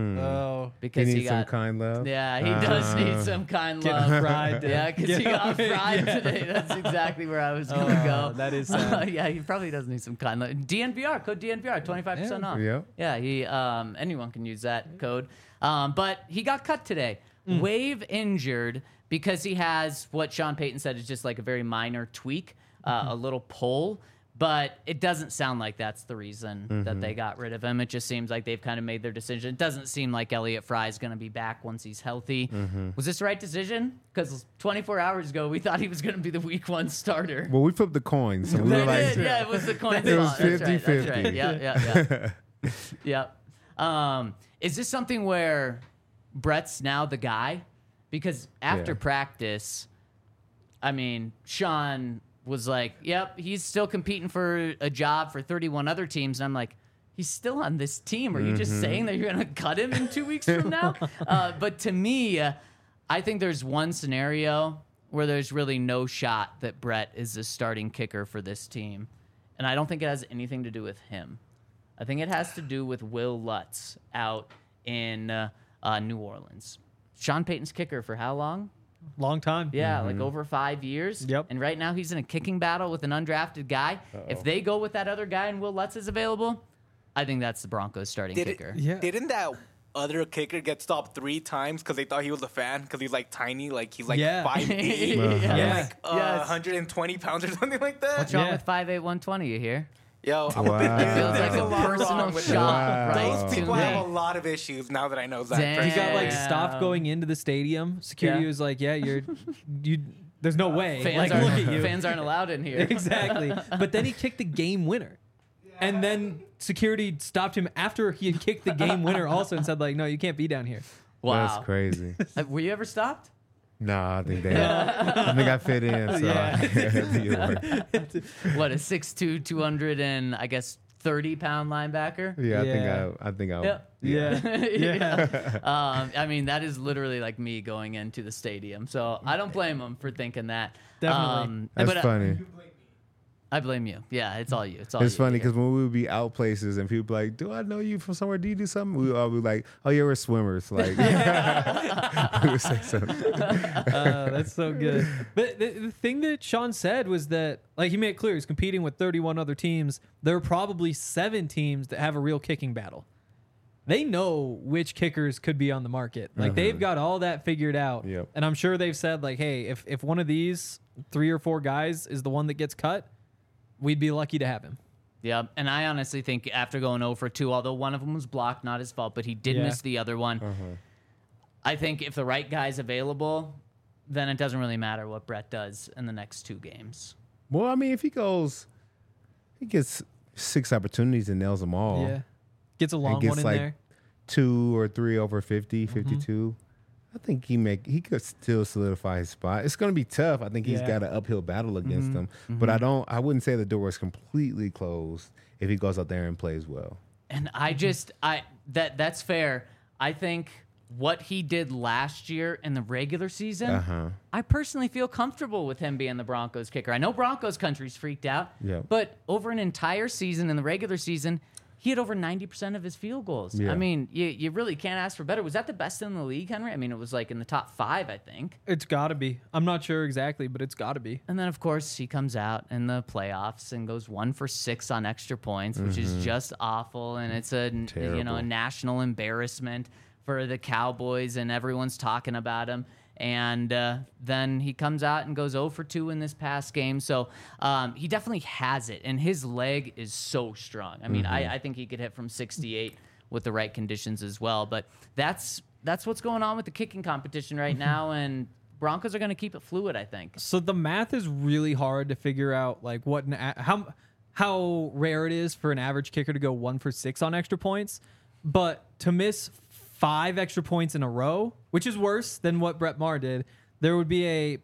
Oh. Because He he needs some got Kind Love. Yeah, he does need some Kind Love. fried. Yeah, because he got fried today. That's exactly where I was going to go. That is sad. Yeah, he probably does need some Kind Love. DNVR, code DNVR, 25% off. Yeah. Yeah, he anyone can use that code. But he got cut today. Wave injured because he has what Sean Payton said is just like a very minor tweak, a little pull. But it doesn't sound like that's the reason that they got rid of him. It just seems like they've kind of made their decision. It doesn't seem like Elliot Fry is going to be back once he's healthy. Was this the right decision? Because 24 hours ago, we thought he was going to be the week 1 starter. Well, we flipped the coins. And we were They like, did, yeah, it was the coin It was toss. That's right, 50-50. That's right. Yeah. Yep. Is this something where Brett's now the guy? Because after Yeah. practice, I mean, Sean was like, yep, he's still competing for a job for 31 other teams. And I'm like, he's still on this team. Are you just saying that you're going to cut him in 2 weeks from now? But to me, I think there's one scenario where there's really no shot that Brett is the starting kicker for this team. And I don't think it has anything to do with him. I think it has to do with Will Lutz out in New Orleans. Sean Payton's kicker for how long? Long time. Yeah, like over 5 years. Yep. And right now he's in a kicking battle with an undrafted guy. If they go with that other guy and Will Lutz is available, I think that's the Broncos starting kicker. Yeah. Didn't that other kicker get stopped 3 times because they thought he was a fan because he's like tiny, like he's like 5'8", Yeah. like 120 pounds or something like that? What's wrong Yeah. with 5'8", 120, you hear? Yo, I'm Wow. a bit It feels like there's a lot personal wrong with shot that. right Those to people me. have a lot of issues now that I know that. Damn. He person. got like Yeah. stopped going into the stadium. Security Yeah. was like, "Yeah, you. There's no way. Fans, Like, look at you." fans aren't allowed in here. Exactly. But then he kicked the game winner. And then security stopped him after he had kicked the game winner also and said, like, no, you can't be down here. Wow. That's crazy. Were you ever stopped? Nah, I think I fit in. So Yeah. I think it worked. What, a 6'2", 200 and I guess 30-pound linebacker? Yeah, Yeah. I think I. Yep. Yeah. I mean, that is literally like me going into the stadium. So I don't blame him for thinking that. Definitely. That's but, funny. I blame you. Yeah, it's all you. It's all It's you. funny Yeah. because when we would be out places and people be like, "Do I know you from somewhere? Do you do something?" We would all be like, "Oh yeah, we're swimmers." Like we would say something. That's so good. But the thing that Sean said was that, like, he made it clear he's competing with 31 other teams. There are probably 7 teams that have a real kicking battle. They know which kickers could be on the market. Like, they've got all that figured out. Yep. And I'm sure they've said, like, hey, if one of these 3 or 4 guys is the one that gets cut, we'd be lucky to have him. Yeah, and I honestly think after going 0 for 2, although one of them was blocked, not his fault, but he did miss the other one. I think if the right guy's available, then it doesn't really matter what Brett does in the next 2 games. Well, I mean, if he gets 6 opportunities and nails them all. Yeah. Gets a long gets one in like there. 2 or 3 over 50, 52. I think he could still solidify his spot. It's going to be tough. I think he's Yeah. got an uphill battle against them. But I wouldn't say the door is completely closed if he goes out there and plays well. And that's fair. I think what he did last year in the regular season, I personally feel comfortable with him being the Broncos kicker. I know Broncos country's freaked out, but over an entire season in the regular season, he had over 90% of his field goals. Yeah. I mean, you really can't ask for better. Was that the best in the league, Henry? I mean, it was like in the top 5, I think. It's got to be. I'm not sure exactly, but it's got to be. And then, of course, he comes out in the playoffs and goes 1 for 6 on extra points, which is just awful. And it's a national embarrassment for the Cowboys, and everyone's talking about him. And then he comes out and goes 0 for 2 in this past game. So he definitely has it, and his leg is so strong. I mean, I think he could hit from 68 with the right conditions as well. But that's what's going on with the kicking competition right now, and Broncos are going to keep it fluid, I think. So the math is really hard to figure out, like how rare it is for an average kicker to go 1 for 6 on extra points, but to miss 5 extra points in a row, which is worse than what Brett Maher did, there would be a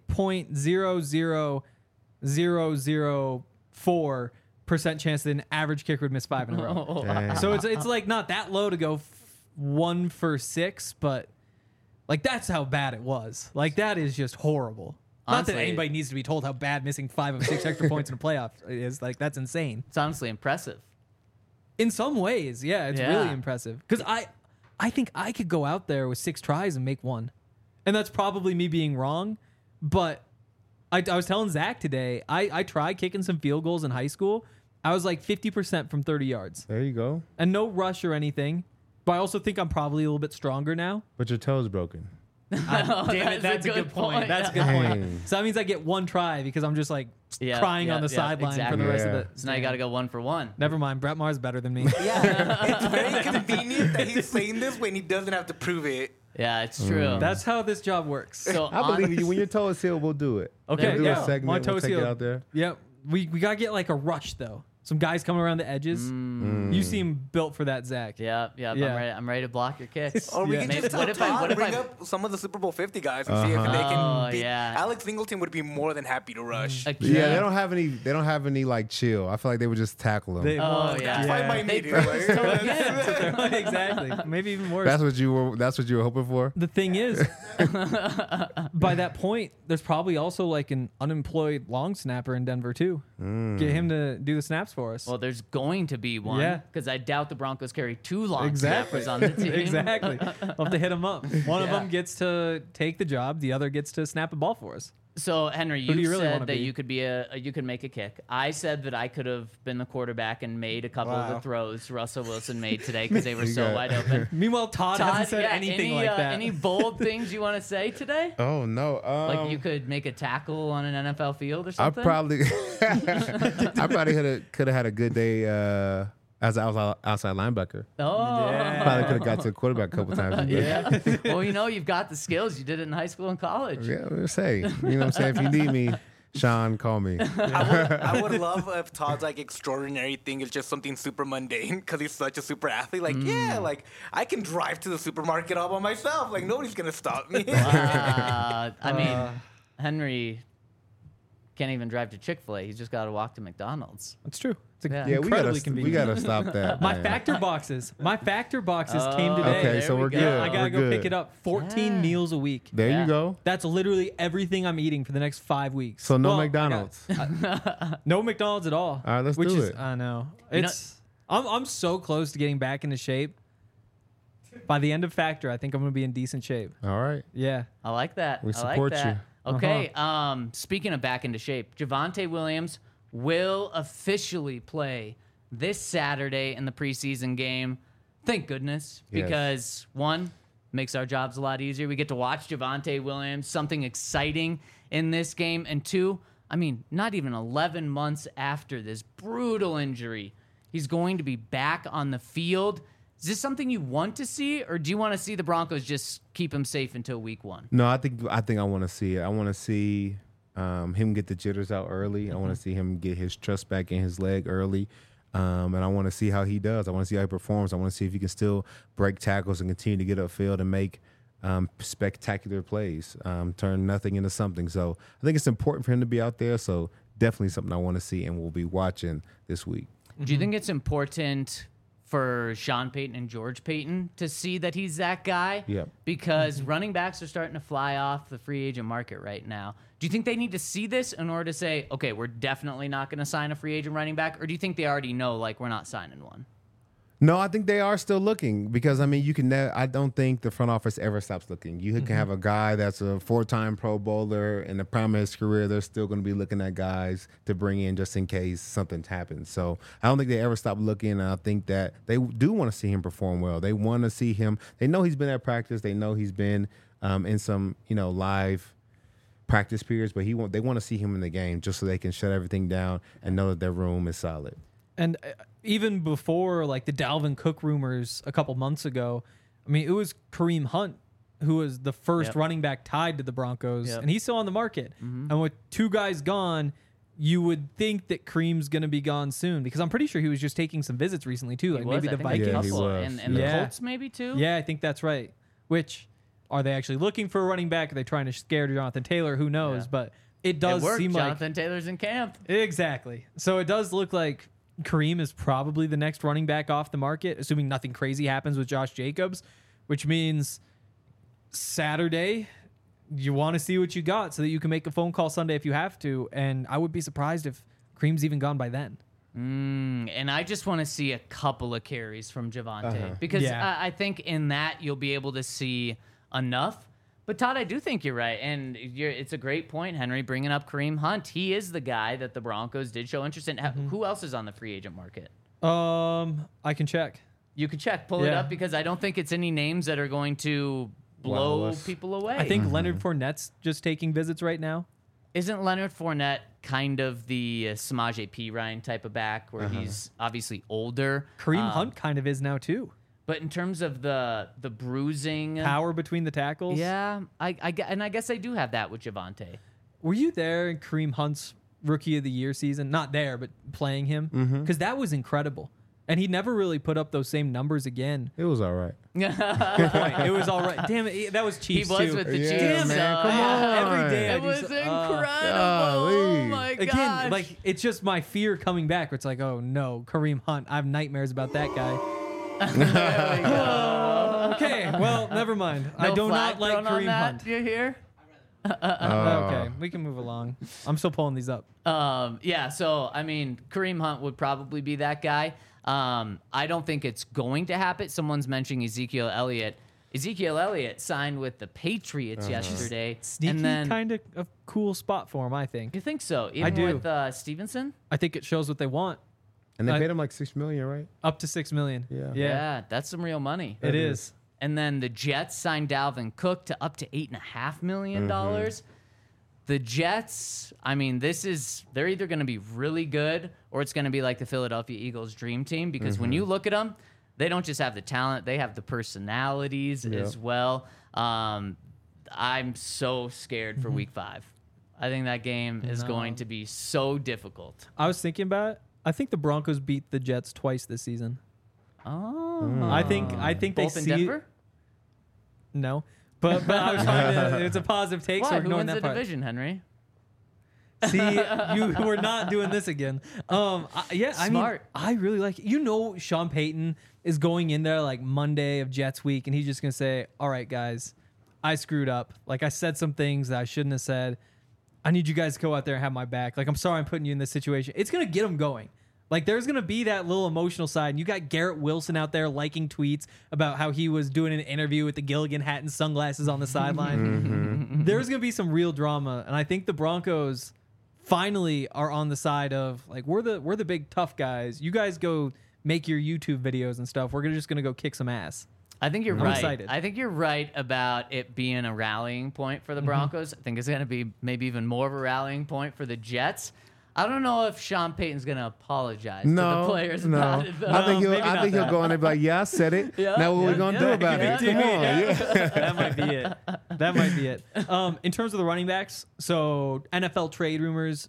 0.00004% chance that an average kicker would miss 5 in a row. Dang. So it's like not that low to go 1 for 6, but like that's how bad it was. Like that is just horrible. Honestly, not that anybody needs to be told how bad missing 5 of 6 extra points in a playoff is. Like that's insane. It's honestly impressive. In some ways, yeah, it's really impressive. Because I think I could go out there with 6 tries and make 1. And that's probably me being wrong. But I was telling Zach today, I tried kicking some field goals in high school. I was like 50% from 30 yards. There you go. And no rush or anything. But I also think I'm probably a little bit stronger now. But your toe's broken. Damn it, that's a good point. That's a good point. So that means I get 1 try because I'm just like crying on the sideline for the rest of it. So now you got to go 1 for 1. Never mind. Brett Maher's better than me. Yeah, it's very convenient that he's saying this when he doesn't have to prove it. Yeah, it's true. That's how this job works. So I believe you. When your toe is healed, we'll do it. Okay, we'll do yeah. a segment. My We'll toe's take it healed. out there. Yep. We got to get like a rush, though. Some guys coming around the edges. You seem built for that, Zach. Yeah. I'm ready to block your kicks. Or we Yeah. can Maybe- just tell Todd, bring up some of the Super Bowl 50 guys and see if they can beat. yeah. Alex Singleton would be more than happy to rush. Yeah, they don't have any. They don't have any like chill. I feel like they would just tackle them. Oh, yeah. That's why my They need practice till again. Exactly. Maybe even worse. That's what you were. That's what you were hoping for. The thing is, by that point, there's probably also like an unemployed long snapper in Denver too. Get him to do the snaps for us. Well, there's going to be one. Yeah. Because I doubt the Broncos carry 2 long Exactly. snappers on the team. Exactly. We'll have to hit him up. One of them gets to take the job. The other gets to snap a ball for us. So Henry, Who do you you really said wanna that be? you could be you could make a kick. I said that I could have been the quarterback and made a couple of the throws Russell Wilson made today because they were so got- wide open. Meanwhile, Todd hasn't said anything like that. Any bold things you want to say today? Oh no! Like you could make a tackle on an NFL field or I something? probably, I probably could have had a good day as an outside linebacker. Oh. Probably could have got to the quarterback a couple times. Yeah. Well, you've got the skills. You did it in high school and college. Yeah, we'll say. You know what I'm saying? If you need me, Sean, call me. I would love if Todd's like extraordinary thing is just something super mundane because he's such a super athlete. Like, like I can drive to the supermarket all by myself. Like nobody's gonna stop me. I mean, Henry can't even drive to Chick-fil-A. He's just got to walk to McDonald's. That's true. It's Yeah. incredibly we convenient. gotta stop that. My man. factor boxes. My factor boxes came today. Okay, There so we we're go. good. I gotta We're go good. pick it up. 14 meals a week. There Yeah. you go. That's literally everything I'm eating for the next 5 weeks. So no Well, McDonald's. No McDonald's at all. All right, let's which do is, it. I know. You know- It's I'm so close to getting back into shape. By the end of Factor, I think I'm gonna be in decent shape. All right. Yeah. I like that. We I like support that. you. Okay. Speaking of back into shape, Javonte Williams will officially play this Saturday in the preseason game. Thank goodness, Yes. because one, makes our jobs a lot easier. We get to watch Javonte Williams, something exciting in this game. And 2, I mean, not even 11 months after this brutal injury, he's going to be back on the field. Is this something you want to see, or do you want to see the Broncos just keep him safe until week 1? No, I think I want to see it. I want to see him get the jitters out early. I want to see him get his trust back in his leg early. And I want to see how he does. I want to see how he performs. I want to see if he can still break tackles and continue to get upfield and make spectacular plays, turn nothing into something. So I think it's important for him to be out there. So definitely something I want to see and we'll be watching this week. Do you think it's important for Sean Payton and George Payton to see that he's that guy. Yep. Because running backs are starting to fly off the free agent market right now. Do you think they need to see this in order to say, okay, we're definitely not going to sign a free agent running back? Or do you think they already know, like, we're not signing one? No, I think they are still looking because, I mean, you can. I don't think the front office ever stops looking. You can have a guy that's a 4-time Pro Bowler in the prime of his career. They're still going to be looking at guys to bring in just in case something happens. So I don't think they ever stop looking. And I think that they do want to see him perform well. They want to see him. They know he's been at practice. They know he's been in some, live practice periods. But they want to see him in the game just so they can shut everything down and know that their room is solid. And even before like the Dalvin Cook rumors a couple months ago, I mean, it was Kareem Hunt who was the first running back tied to the Broncos, and he's still on the market. And with 2 guys gone, you would think that Kareem's going to be gone soon because I'm pretty sure he was just taking some visits recently too, like maybe the Vikings. Yeah, he was. And the Colts maybe too? Yeah, I think that's right. Which, are they actually looking for a running back? Are they trying to scare Jonathan Taylor? Who knows? Yeah. But it does seem like... Jonathan Taylor's in camp. Exactly. So it does look like Kareem is probably the next running back off the market, assuming nothing crazy happens with Josh Jacobs, which means Saturday, you want to see what you got so that you can make a phone call Sunday if you have to. And I would be surprised if Kareem's even gone by then. And I just want to see a couple of carries from Javonte because I think in that you'll be able to see enough. But Todd, I do think you're right, and it's a great point, Henry, bringing up Kareem Hunt. He is the guy that the Broncos did show interest in. Who else is on the free agent market? I can check. You can check, pull it up, because I don't think it's any names that are going to blow people away. I think Leonard Fournette's just taking visits right now. Isn't Leonard Fournette kind of the Samaje Perine type of back, where he's obviously older? Kareem Hunt kind of is now too. But in terms of the bruising power between the tackles, yeah, I guess I do have that with Javonte. Were you there in Kareem Hunt's Rookie of the Year season? Not there, but playing him, because that was incredible. And he never really put up those same numbers again. It was all right. It was all right. Damn it, that was Chiefs He was too. with the Yeah, Chiefs. man, come on. Every day It was incredible. golly. Oh my gosh. Again, like it's just my fear coming back. Where it's like, oh no, Kareem Hunt. I have nightmares about that guy. Okay, well, never mind. I do not like Kareem Hunt. You hear? Okay, we can move along. I'm still pulling these up. Yeah, so, I mean, Kareem Hunt would probably be that guy. I don't think it's going to happen. Someone's mentioning Ezekiel Elliott. Ezekiel Elliott signed with the Patriots yesterday. Sneaky, and then, kind of a cool spot for him, I think. you think so? Even do. with Stevenson? I think it shows what they want. And they paid him like $6 million, right? Up to $6 million. Yeah. Yeah, that's some real money. It is. And then the Jets signed Dalvin Cook to up to $8.5 million. The Jets, I mean, they're either going to be really good or it's going to be like the Philadelphia Eagles dream team, because when you look at them, they don't just have the talent, they have the personalities as well. I'm so scared for week 5. I think that game is going to be so difficult. I was thinking about it. I think the Broncos beat the Jets twice this season. Oh. I think they Both in see Denver? No. But I was trying to, it's a positive take, so Why? we're Who ignoring wins that the part. division, Henry? See, we're not doing this again. Smart. I really like it. Sean Payton is going in there like Monday of Jets week, and he's just going to say, all right, guys, I screwed up. Like, I said some things that I shouldn't have said. I need you guys to go out there and have my back. Like, I'm sorry I'm putting you in this situation. It's going to get them going. Like, there's going to be that little emotional side. And you got Garrett Wilson out there liking tweets about how he was doing an interview with the Gilligan hat and sunglasses on the sideline. There's going to be some real drama. And I think the Broncos finally are on the side of, like, we're the big tough guys. You guys go make your YouTube videos and stuff. We're just going to go kick some ass. I think you're I'm right. excited. I think you're right about it being a rallying point for the Broncos. I think it's going to be maybe even more of a rallying point for the Jets. I don't know if Sean Payton's going to apologize to the players about it, though. I think he'll go in there and be like, yeah, I said it. Now what are we going to do about it? Come on. Yeah. That might be it. That might be it. In terms of the running backs, so NFL trade rumors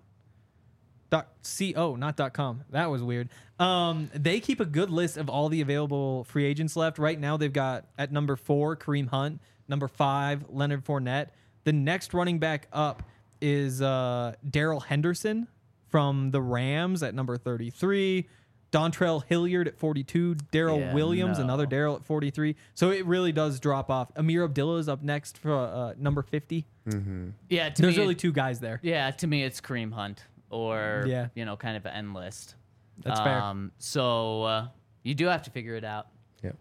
.co, not .com. That was weird. They keep a good list of all the available free agents left. Right now, they've got at number 4, Kareem Hunt. Number 5, Leonard Fournette. The next running back up is Darrell Henderson from the Rams at number 33. Dontrell Hilliard at 42, Daryl Yeah, Williams, no. another Daryl at 43. So it really does drop off. Amir Abdullah is up next for number 50. Yeah, to There's me, really two guys there. yeah, to me it's Kareem Hunt or Yeah. kind of an end list. That's fair. So you do have to figure it out. Yep.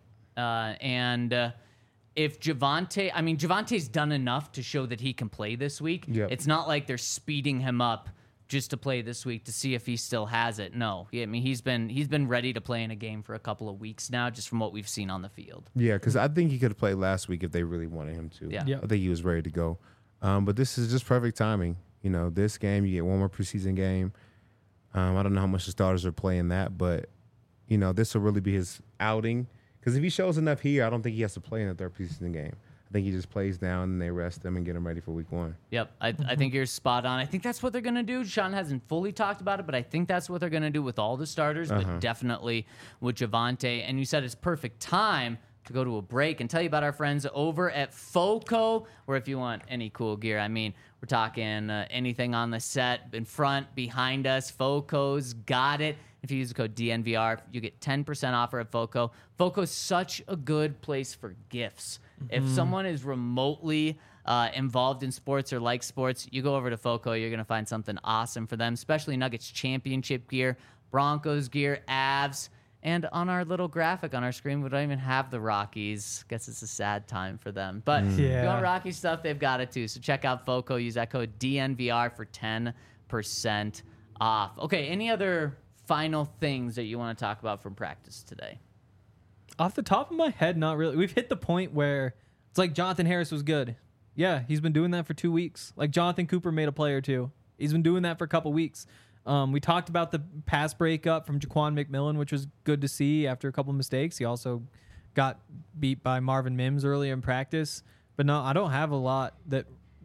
And if Javante's done enough to show that he can play this week. Yep. It's not like they're speeding him up just to play this week to see if he still has it. No, I mean he's been ready to play in a game for a couple of weeks now, just from what we've seen on the field. Yeah, because I think he could have played last week if they really wanted him to. Yeah. Yeah. I think he was ready to go. But this is just perfect timing. This game, you get one more preseason game. I don't know how much the starters are playing that, but, this will really be his outing. Because if he shows enough here, I don't think he has to play in the third preseason game. I think he just plays down and they rest him and get him ready for week 1. Yep, I think you're spot on. I think that's what they're going to do. Sean hasn't fully talked about it, but I think that's what they're going to do with all the starters, but definitely with Javonte. And you said it's perfect time to go to a break and tell you about our friends over at FOCO, where if you want any cool gear, I mean, we're talking anything on the set, in front, behind us, FOCO's got it. If you use the code DNVR, you get 10% offer at FOCO. FOCO's such a good place for gifts. If someone is remotely involved in sports or likes sports, you go over to FOCO, you're going to find something awesome for them, especially Nuggets championship gear, Broncos gear, Avs, and on our little graphic on our screen, we don't even have the Rockies. Guess it's a sad time for them. But if you want Rocky stuff, they've got it too. So check out FOCO. Use that code DNVR for 10% off. Okay, any other final things that you want to talk about from practice today? Off the top of my head, not really. We've hit the point where it's like Jonathan Harris was good. Yeah, he's been doing that for 2 weeks. Like Jonathan Cooper made a play or two. He's been doing that for a couple weeks. We talked about the pass breakup from Jaquan McMillan, which was good to see after a couple mistakes. He also got beat by Marvin Mims earlier in practice. But no, I don't have a lot that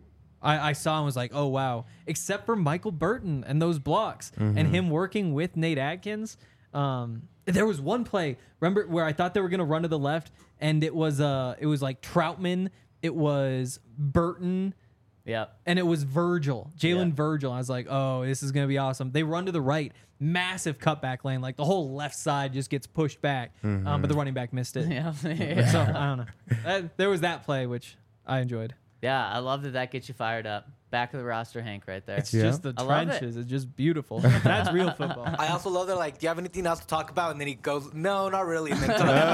I saw and was like, oh, wow. Except for Michael Burton and those blocks and him working with Nate Atkins. There was one play, remember, where I thought they were going to run to the left, and it was like Troutman, it was Burton, Yep. and it was Virgil, Jalen Virgil. I was like, oh, this is going to be awesome. They run to the right, massive cutback lane, like the whole left side just gets pushed back, but the running back missed it. Yeah. So I don't know. There was that play, which I enjoyed. Yeah, I love that gets you fired up. Back of the roster, Hank, right there. It's just the I love it. trenches. It's just beautiful. That's real football. I also love that, like, do you have anything else to talk about? And then he goes, no, not really. And then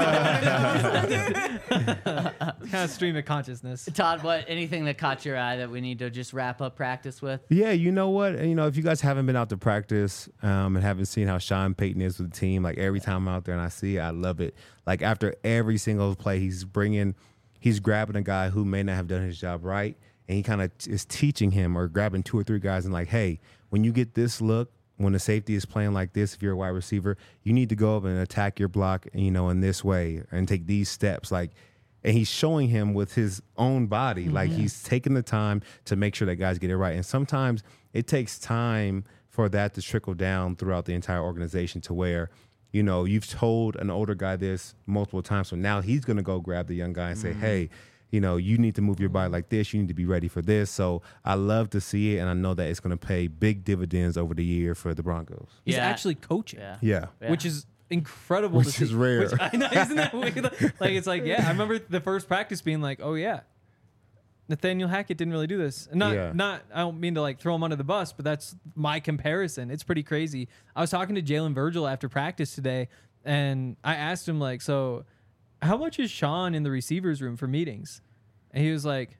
Kind of stream of consciousness. Todd, anything that caught your eye that we need to just wrap up practice with? Yeah, you know what? If you guys haven't been out to practice and haven't seen how Sean Payton is with the team, like every time I'm out there and I see it, I love it. Like after every single play, he's grabbing a guy who may not have done his job right, and he kind of is teaching him or grabbing 2 or 3 guys and like, hey, when you get this look, when the safety is playing like this, if you're a wide receiver, you need to go up and attack your block, in this way and take these steps. Like, and he's showing him with his own body, like he's taking the time to make sure that guys get it right. And sometimes it takes time for that to trickle down throughout the entire organization to where, you've told an older guy this multiple times. So now he's going to go grab the young guy and say, hey, you need to move your body like this. You need to be ready for this. So I love to see it, and I know that it's going to pay big dividends over the year for the Broncos. He's Yeah. actually coaching, Yeah. which is incredible Which to see. is rare. Which, I know, isn't that weird? Like, it's like, yeah, I remember the first practice being like, oh, yeah, Nathaniel Hackett didn't really do this. And not, I don't mean to like throw him under the bus, but that's my comparison. It's pretty crazy. I was talking to Jalen Virgil after practice today, and I asked him, like, so how much is Sean in the receivers room for meetings? And he was like,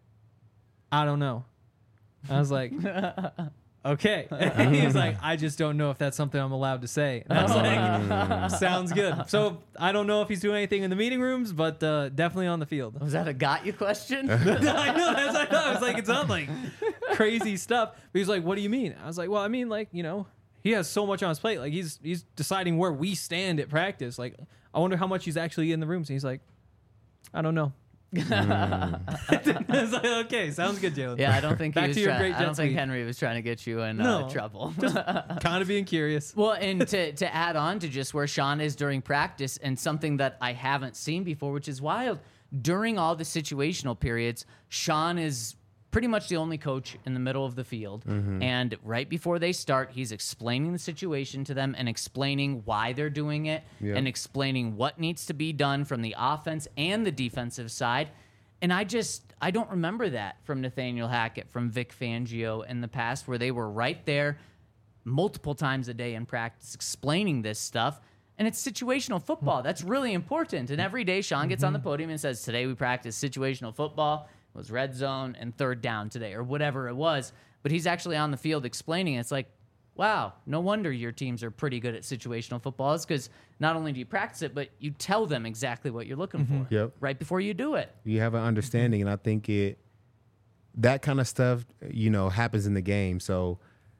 I don't know. I was like, okay. And he was like, I just don't know if that's something I'm allowed to say. And I was like, sounds good. So I don't know if he's doing anything in the meeting rooms, but definitely on the field. Was that a got you question? I know. That's what I thought. I was like, it's not like crazy stuff. But he's like, what do you mean? I was like, well, I mean, like, he has so much on his plate. Like, he's deciding where we stand at practice. Like, I wonder how much he's actually in the rooms. And he's like, I don't know. I was like, okay, sounds good, Jalen. Yeah, I don't think Back he was to your trying, great I don't Jets think week. Henry was trying to get you in No. trouble. Kind of being curious. Well, and to add on to just where Sean is during practice, and something that I haven't seen before, which is wild, during all the situational periods, Sean is pretty much the only coach in the middle of the field. And right before they start, he's explaining the situation to them and explaining why they're doing it and explaining what needs to be done from the offense and the defensive side. And I don't remember that from Nathaniel Hackett, from Vic Fangio in the past, where they were right there multiple times a day in practice explaining this stuff. And it's situational football. That's really important. And every day Sean gets on the podium and says, today we practice situational football. It was red zone and third down today, or whatever it was. But he's actually on the field explaining it. It's like, wow, no wonder your teams are pretty good at situational football. It's because not only do you practice it, but you tell them exactly what you're looking for right before you do it. You have an understanding, and I think that kind of stuff, happens in the game. So,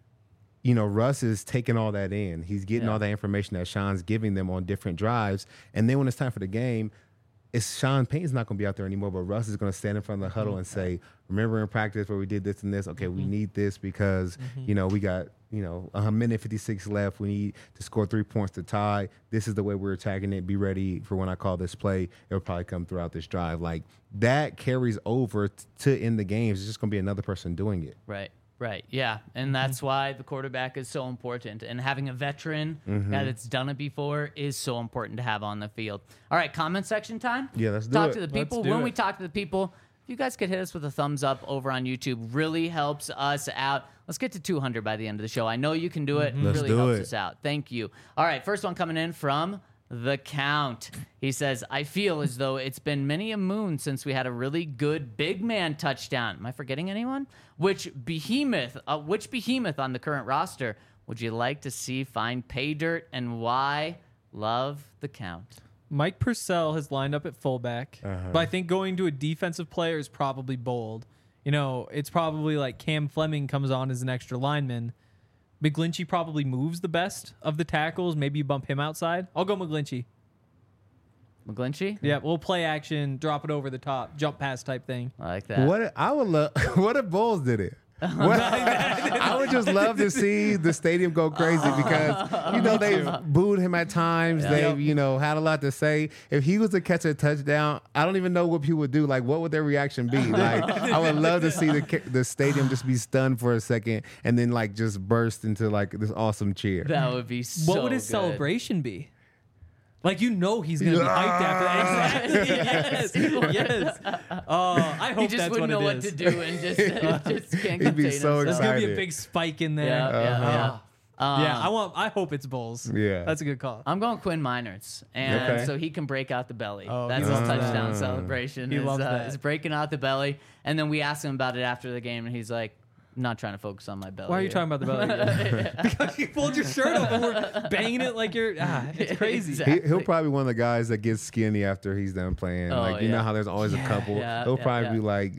Russ is taking all that in. He's getting all that information that Sean's giving them on different drives. And then when it's time for the game, Sean Payton's not going to be out there anymore, but Russ is going to stand in front of the huddle and say, remember in practice where we did this and this? Okay, we need this because, we got, a minute 56 left. We need to score 3 points to tie. This is the way we're attacking it. Be ready for when I call this play. It'll probably come throughout this drive. Like, that carries over to in the games. It's just going to be another person doing it. Right, yeah. And that's why the quarterback is so important. And having a veteran guy that's done it before is so important to have on the field. All right, comment section time? Yeah, let's do talk it. to the people. When we talk to the people, if you guys could hit us with a thumbs up over on YouTube, really helps us out. Let's get to 200 by the end of the show. I know you can do it. Let's really do helps it. us out. Thank you. All right, first one coming in from The Count. He says, I feel as though it's been many a moon since we had a really good big man touchdown. Am I forgetting anyone? Which behemoth on the current roster would you like to see find pay dirt, and why? Love, The Count. Mike Purcell has lined up at fullback, but I think going to a defensive player is probably bold. It's probably like Cam Fleming comes on as an extra lineman. McGlinchey probably moves the best of the tackles. Maybe you bump him outside. I'll go McGlinchey. McGlinchey? Yeah, we'll play action, drop it over the top, jump pass type thing. I like that. I would love. What if Bulls did it? I would just love to see the stadium go crazy because they've booed him at times. They've had a lot to say. If he was to catch a touchdown, I don't even know what people would do. Like, what would their reaction be? Like, I would love to see the stadium just be stunned for a second and then like just burst into like this awesome cheer. That would be so What would his good. celebration be? Like, he's going to be hyped after that. Exactly. Yes. Oh, I hope He just that's wouldn't what know it what is. to do and just can't He'd be contain so himself. There's going to be a excited. big spike in there. Yeah. I hope it's Bulls. Yeah. That's a good call. I'm going Quinn Miners, and Okay. so he can break out the belly. Oh, That's he his loves touchdown that. celebration. He is, loves that. is breaking out the belly, and then we asked him about it after the game, and he's like, "I'm not trying to focus on my belly." Why are you here." talking about the belly? Because you pulled your shirt up and we're banging it like you're. It's crazy. Exactly. He'll probably be one of the guys that gets skinny after he's done playing. Oh, like, you know yeah. how there's always a couple. Yeah, He'll yeah, probably yeah. be like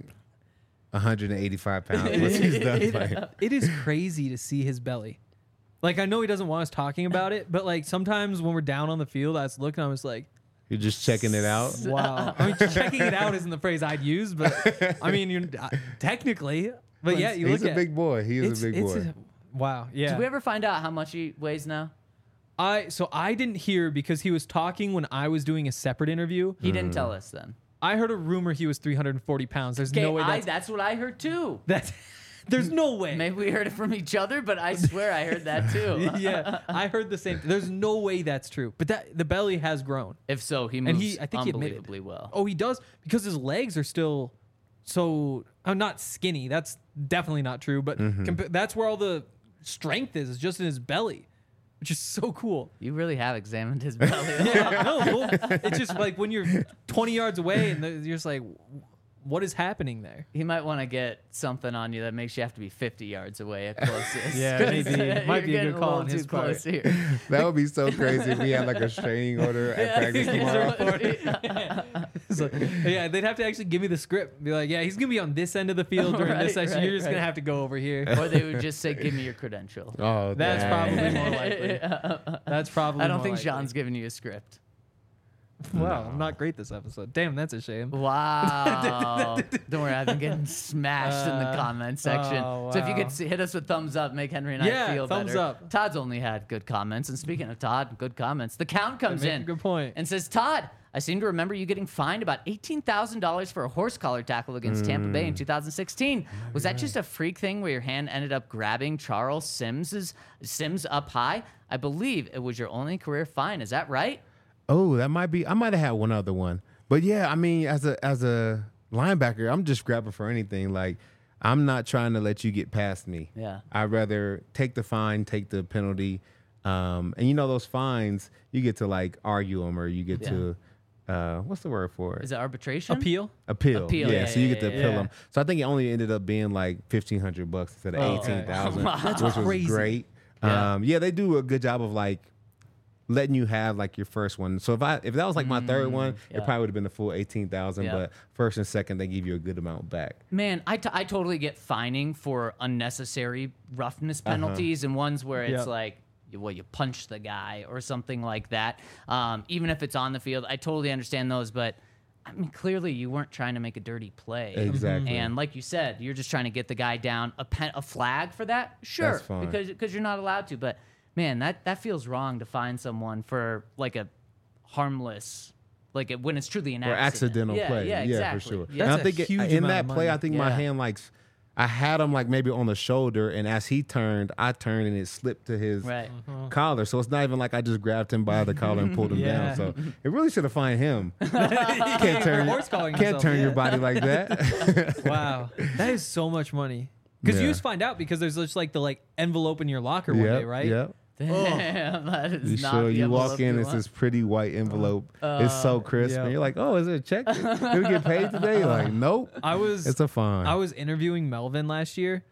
185 pounds once he's done playing. It is crazy to see his belly. Like, I know he doesn't want us talking about it, but like sometimes when we're down on the field, I was looking, I was like, You're just checking it out. wow. I mean, checking it out isn't the phrase I'd use, but I mean, you're technically. But yeah, you He's look a at big boy. He is a big boy. Wow. Yeah. Did we ever find out how much he weighs now? So I didn't hear because he was talking when I was doing a separate interview. He didn't tell us then. I heard a rumor he was 340 pounds. There's no way That's what I heard too. there's no way. Maybe we heard it from each other, but I swear I heard that too. Yeah, I heard the same. There's no way that's true. But the belly has grown. If so, he moves I think he admitted. unbelievably well. Oh, he does because his legs are still so. I'm not skinny. That's definitely not true. But that's where all the strength is just in his belly, which is so cool. You really have examined his belly. No, well, it's just like when you're 20 yards away and you're just like, what is happening there? He might want to get something on you that makes you have to be 50 yards away at closest. Yeah, 'Cause, maybe. Might be a you're good getting call on little his too part. close here. That would be so crazy if we had like a restraining order at practice tomorrow. So, yeah, they'd have to actually give me the script. Be like, yeah, he's gonna be on this end of the field during this Right, section. right, You're just right. gonna have to go over here. Or they would just say, "Give me your credential." Oh, That's dang. probably more likely. That's probably. I don't more think likely. Sean's giving you a script. Wow, I'm not great this episode. Damn, that's a shame. Wow. Don't worry, I've been getting smashed in the comment section. oh, So if you wow. could hit us with thumbs up, make Henry and I Yeah, feel thumbs better. up. Todd's only had good comments. And speaking of Todd, good comments. The Count comes Make a in. good point. And says, Todd, I seem to remember you getting fined about $18,000 for a horse collar tackle against Tampa Bay in 2016. Was that just a freak thing where your hand ended up grabbing Charles Sims up high? I believe it was your only career fine. Is that right? Oh, that might be. I might have had one other one, but yeah, I mean, as a linebacker, I'm just grabbing for anything. Like, I'm not trying to let you get past me. Yeah. I'd rather take the fine, take the penalty, and those fines, you get to like argue them, or you get to what's the word for it? Is it arbitration? Appeal? Appeal. Yeah, so you get to yeah, appeal yeah. them. So I think it only ended up being like $1,500 instead of okay. $18,000, Wow. That's which crazy. was great. Yeah. They do a good job of like letting you have like your first one. So if that was like my third one, yeah. it probably would have been the full 18,000. Yeah. But first and second, they give you a good amount back. Man, I totally get fining for unnecessary roughness penalties and ones where it's Yeah. like, you punch the guy or something like that. Even if it's on the field, I totally understand those. But I mean, clearly you weren't trying to make a dirty play. Exactly. And like you said, you're just trying to get the guy down. A flag for that, sure, That's fine. because you're not allowed to. But man, that feels wrong to fine someone for like a harmless, when it's truly an Or accidental yeah, play. Yeah, exactly. for sure. Yeah. And I That's a think huge in amount that of play, money. I think my Yeah. hand I had him like maybe on the shoulder, and as he turned, I turned and it slipped to his Right. collar. So it's not even like I just grabbed him by the collar and pulled him Yeah. down. So it really should have fined him. Can't turn, Horse calling can't himself, turn your yeah. body like that. Wow, that is so much money. Because you Yeah. just find out because there's just like the envelope in your locker one day, right? Yep. Damn, that is You not sure the you walk envelope in, you it's want. this pretty white envelope. It's so crisp, yeah. and you're like, "Oh, is it a check? Did we get paid today?" You're like, nope. It's a fine. I was interviewing Melvin last year,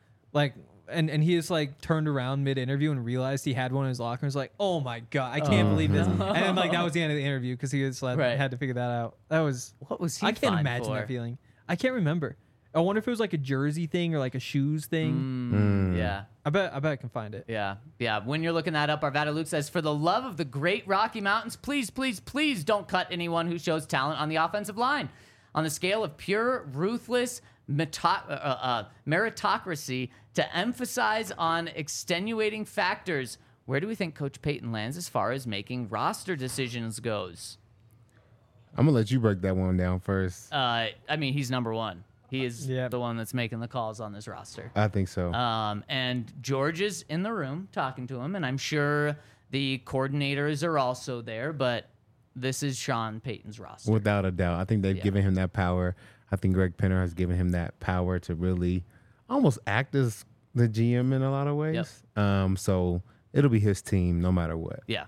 and he just turned around mid interview and realized he had one in his locker. And was like, "Oh my god, I can't believe this!" And then that was the end of the interview because he just Right. had to figure that out. That was What was he I can't fined imagine for? that feeling. I can't remember. I wonder if it was like a jersey thing or like a shoes thing. Yeah. I bet I can find it. Yeah. When you're looking that up, Arvada Luke says, for the love of the great Rocky Mountains, please, please, please don't cut anyone who shows talent on the offensive line. On the scale of pure, ruthless meritocracy to emphasize on extenuating factors, where do we think Coach Payton lands as far as making roster decisions goes? I'm gonna let you break that one down first. I mean, he's number one. He is Yep. the one that's making the calls on this roster. I think so. And George is in the room talking to him, and I'm sure the coordinators are also there, but this is Sean Payton's roster. Without a doubt. I think they've given him that power. I think Greg Penner has given him that power to really almost act as the GM in a lot of ways. So it'll be his team no matter what. Yeah,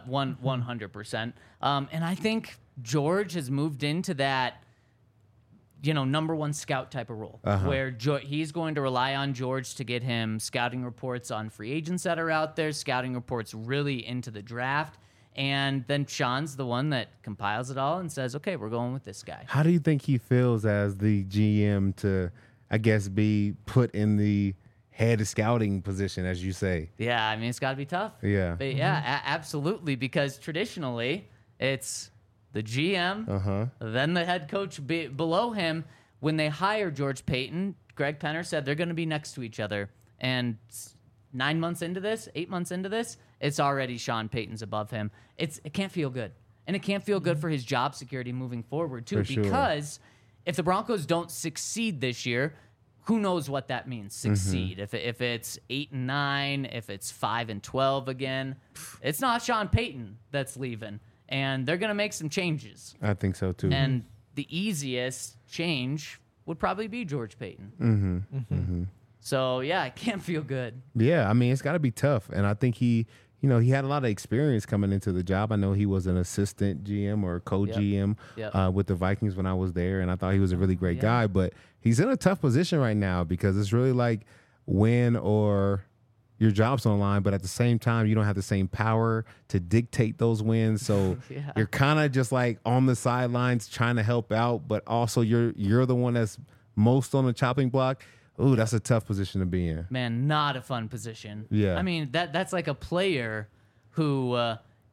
100%. And I think George has moved into that, number one scout type of role, where he's going to rely on George to get him scouting reports on free agents that are out there, scouting reports really into the draft. And then Sean's the one that compiles it all and says, okay, we're going with this guy. How do you think he feels as the GM to, I guess, be put in the head scouting position, as you say? Yeah, I mean, it's got to be tough. Yeah. But yeah, absolutely, because traditionally it's the GM, then the head coach below him. When they hire George Payton, Greg Penner said they're going to be next to each other. And 8 months into this, it's already Sean Payton's above him. It can't feel good. And it can't feel good for his job security moving forward, too, For sure. because if the Broncos don't succeed this year, who knows what that means, succeed. If it's 8-9, if it's 5-12 again, it's not Sean Payton that's leaving. And they're going to make some changes. I think so, too. And the easiest change would probably be George Payton. So, yeah, it can't feel good. Yeah, I mean, it's got to be tough. And I think he had a lot of experience coming into the job. I know he was an assistant GM or co-GM Yep. with the Vikings when I was there, and I thought he was a really great guy. But he's in a tough position right now because it's really like win or your job's on the line, but at the same time, you don't have the same power to dictate those wins. So Yeah. you're kind of just like on the sidelines trying to help out, but also you're the one that's most on the chopping block. Ooh, that's a tough position to be in. Man, not a fun position. Yeah. I mean, that's like a player who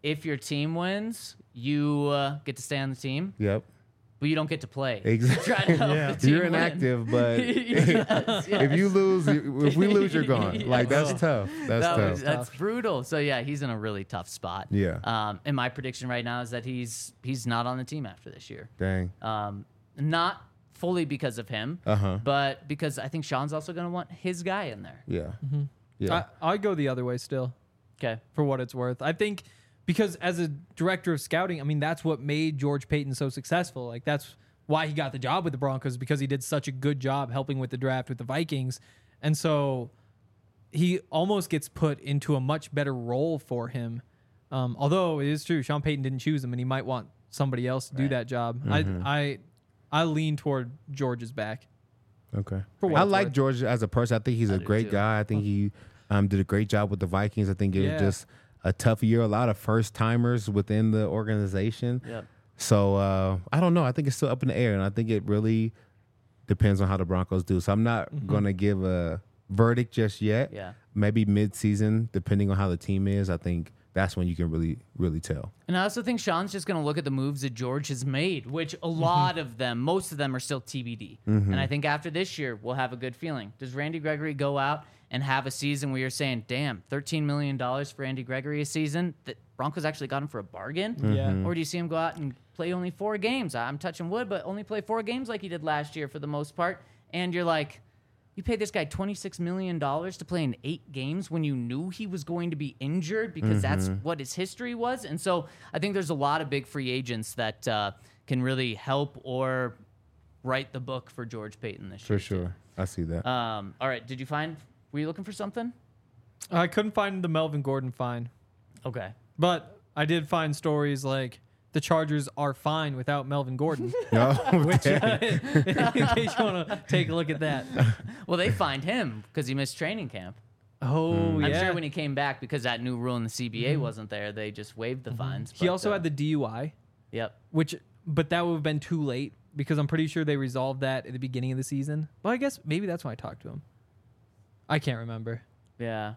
if your team wins, you get to stay on the team, Yep. but you don't get to play. Exactly. Try to help the team You're win. inactive, but Yes, if you lose, if we lose, you're gone. Like that's tough. That's tough. That's brutal. So yeah, he's in a really tough spot. Yeah. And my prediction right now is that he's not on the team after this year. Dang. Not fully because of him, but because I think Sean's also going to want his guy in there. Yeah. Yeah. I go the other way still. Okay. For what it's worth. I think because as a director of scouting, I mean, that's what made George Payton so successful. Like, that's why he got the job with the Broncos, because he did such a good job helping with the draft with the Vikings. And so he almost gets put into a much better role for him. Although it is true, Sean Payton didn't choose him, and he might want somebody else to do that job. I lean toward George's back. Okay. For what I it's like worth. George as a person. I think he's a do great too. guy. I think he did a great job with the Vikings. I think it was just a tough year. A lot of first timers within the organization. Yep. So I don't know. I think it's still up in the air, and I think it really depends on how the Broncos do. So I'm not going to give a verdict just yet. Yeah. Maybe mid-season, depending on how the team is. I think that's when you can really, really tell. And I also think Sean's just going to look at the moves that George has made, which a lot of them, most of them are still TBD. And I think after this year, we'll have a good feeling. Does Randy Gregory go out and have a season where you're saying, damn, $13 million for Randy Gregory a season? That Broncos actually got him for a bargain? Yeah. Or do you see him go out and play only 4 games? I'm touching wood, but only play 4 games like he did last year for the most part. And you're like, you paid this guy $26 million to play in 8 games when you knew he was going to be injured because that's what his history was. And so I think there's a lot of big free agents that can really help or write the book for George Payton this For year. sure. I see that. All right. Were you looking for something? I couldn't find the Melvin Gordon fine, Okay. but I did find stories like the Chargers are fine without Melvin Gordon. Which, In case you want to take a look at that. Well, they fined him because he missed training camp. Oh, yeah. I'm sure when he came back, because that new rule in the CBA wasn't there, they just waived the fines. He but, also had the DUI, Yep. but that would have been too late because I'm pretty sure they resolved that at the beginning of the season. Well, I guess maybe that's why I talked to him. I can't remember. Yeah.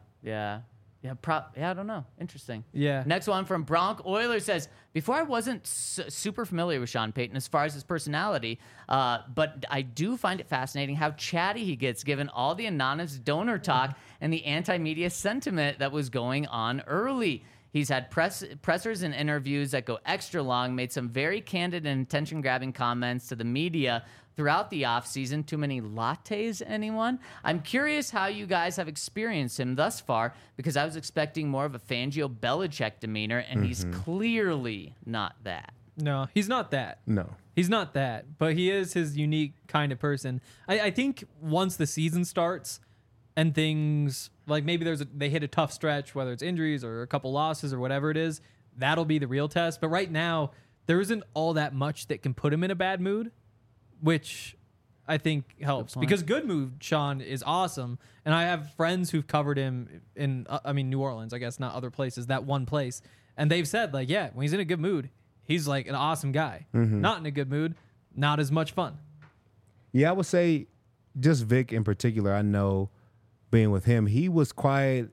I don't know. Interesting. Yeah. Next one from Bronc Oiler says, before I wasn't super familiar with Sean Payton as far as his personality, but I do find it fascinating how chatty he gets given all the anonymous donor talk and the anti-media sentiment that was going on early. He's had pressers and interviews that go extra long, made some very candid and attention-grabbing comments to the media throughout the offseason. Too many lattes, anyone? I'm curious how you guys have experienced him thus far, because I was expecting more of a Fangio Belichick demeanor, and he's clearly not that. No, he's not that. no. He's not that, but he is his unique kind of person. I think once the season starts and things like maybe they hit a tough stretch, whether it's injuries or a couple losses or whatever it is, that'll be the real test. But right now, there isn't all that much that can put him in a bad mood, which I think helps. Because good mood, Sean, is awesome. And I have friends who've covered him in, New Orleans, I guess, not other places, that one place. And they've said, like, yeah, when he's in a good mood, he's like an awesome guy. Not in a good mood, not as much fun. Yeah, I would say just Vic in particular, I know being with him, he was quiet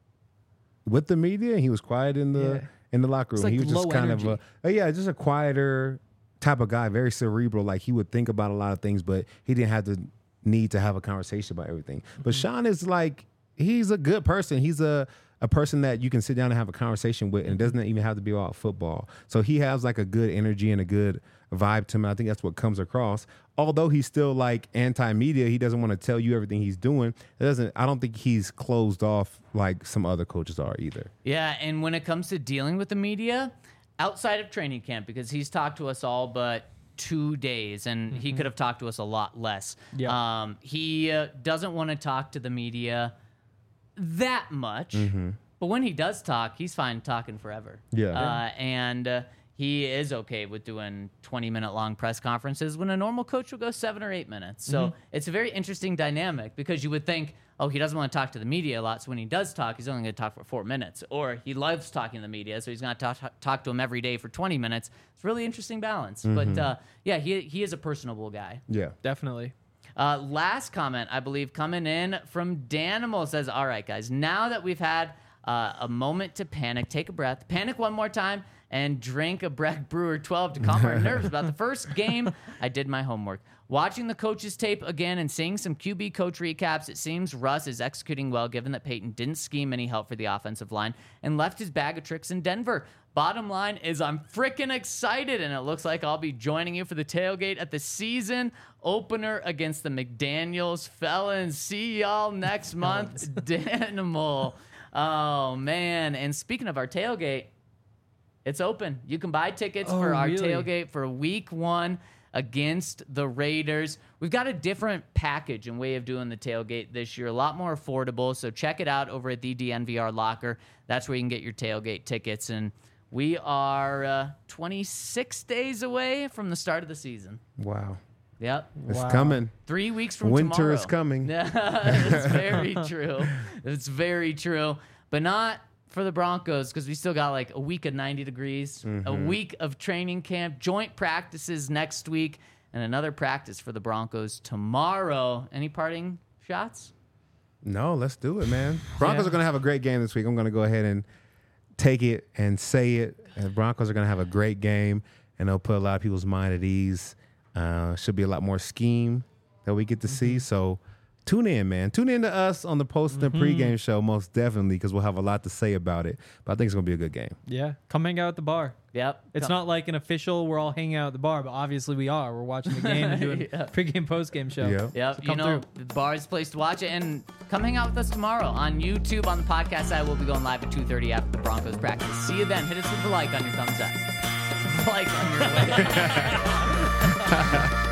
with the media and he was quiet in the locker room. It's like He was just low kind energy. of just a quieter type of guy, very cerebral. Like he would think about a lot of things, but he didn't have the need to have a conversation about everything. But Sean is like, he's a good person. He's a person that you can sit down and have a conversation with, and it doesn't even have to be about football. So he has like a good energy and a good vibe to him. I think that's what comes across. Although he's still like anti-media, he doesn't want to tell you everything he's doing. I don't think he's closed off like some other coaches are either. Yeah, and when it comes to dealing with the media, outside of training camp, because he's talked to us all but 2 days, and he could have talked to us a lot less. Yeah. He doesn't want to talk to the media that much, but when he does talk, he's fine talking forever. Yeah. And he is okay with doing 20-minute long press conferences when a normal coach will go 7 or 8 minutes. So it's a very interesting dynamic, because you would think, oh, he doesn't want to talk to the media a lot, so when he does talk, he's only going to talk for 4 minutes. Or he loves talking to the media, so he's going to talk to him every day for 20 minutes. It's a really interesting balance. But yeah, he is a personable guy. Yeah. Definitely. Last comment, I believe, coming in from Danimal says, all right, guys, now that we've had a moment to panic, take a breath, panic one more time, and drink a Breck Brewer 12 to calm our nerves about the first game. I did my homework. Watching the coaches tape again and seeing some QB coach recaps, it seems Russ is executing well given that Peyton didn't scheme any help for the offensive line and left his bag of tricks in Denver. Bottom line is I'm freaking excited, and it looks like I'll be joining you for the tailgate at the season opener against the McDaniels Felons. See y'all next month. Danimal. Oh, man. And speaking of our tailgate, it's open. You can buy tickets for our tailgate for week 1 against the Raiders. We've got a different package and way of doing the tailgate this year, a lot more affordable. So check it out over at the DNVR Locker. That's where you can get your tailgate tickets. And we are 26 days away from the start of the season. Wow. Yep. It's coming. 3 weeks from Winter tomorrow. is coming. It's very true. It's very true. But not for the Broncos, because we still got like a week of 90 degrees, a week of training camp, joint practices next week, and another practice for the Broncos tomorrow. Any parting shots? No, let's do it, man. Broncos are going to have a great game this week. I'm going to go ahead and take it and say it. And Broncos are going to have a great game, and they'll put a lot of people's mind at ease. Should be a lot more scheme that we get to see. So tune in, man. Tune in to us on the post and pregame show, most definitely, because we'll have a lot to say about it. But I think it's going to be a good game. Yeah. Come hang out at the bar. Yep. It's not like an official, we're all hanging out at the bar, but obviously we are. We're watching the game and doing pregame, postgame show. Yeah. Yep. So You come know, through. the bar is the place to watch it. And come hang out with us tomorrow on YouTube. On the podcast side, we'll be going live at 2:30 after the Broncos practice. See you then. Hit us with the like on your thumbs up. Like on your way.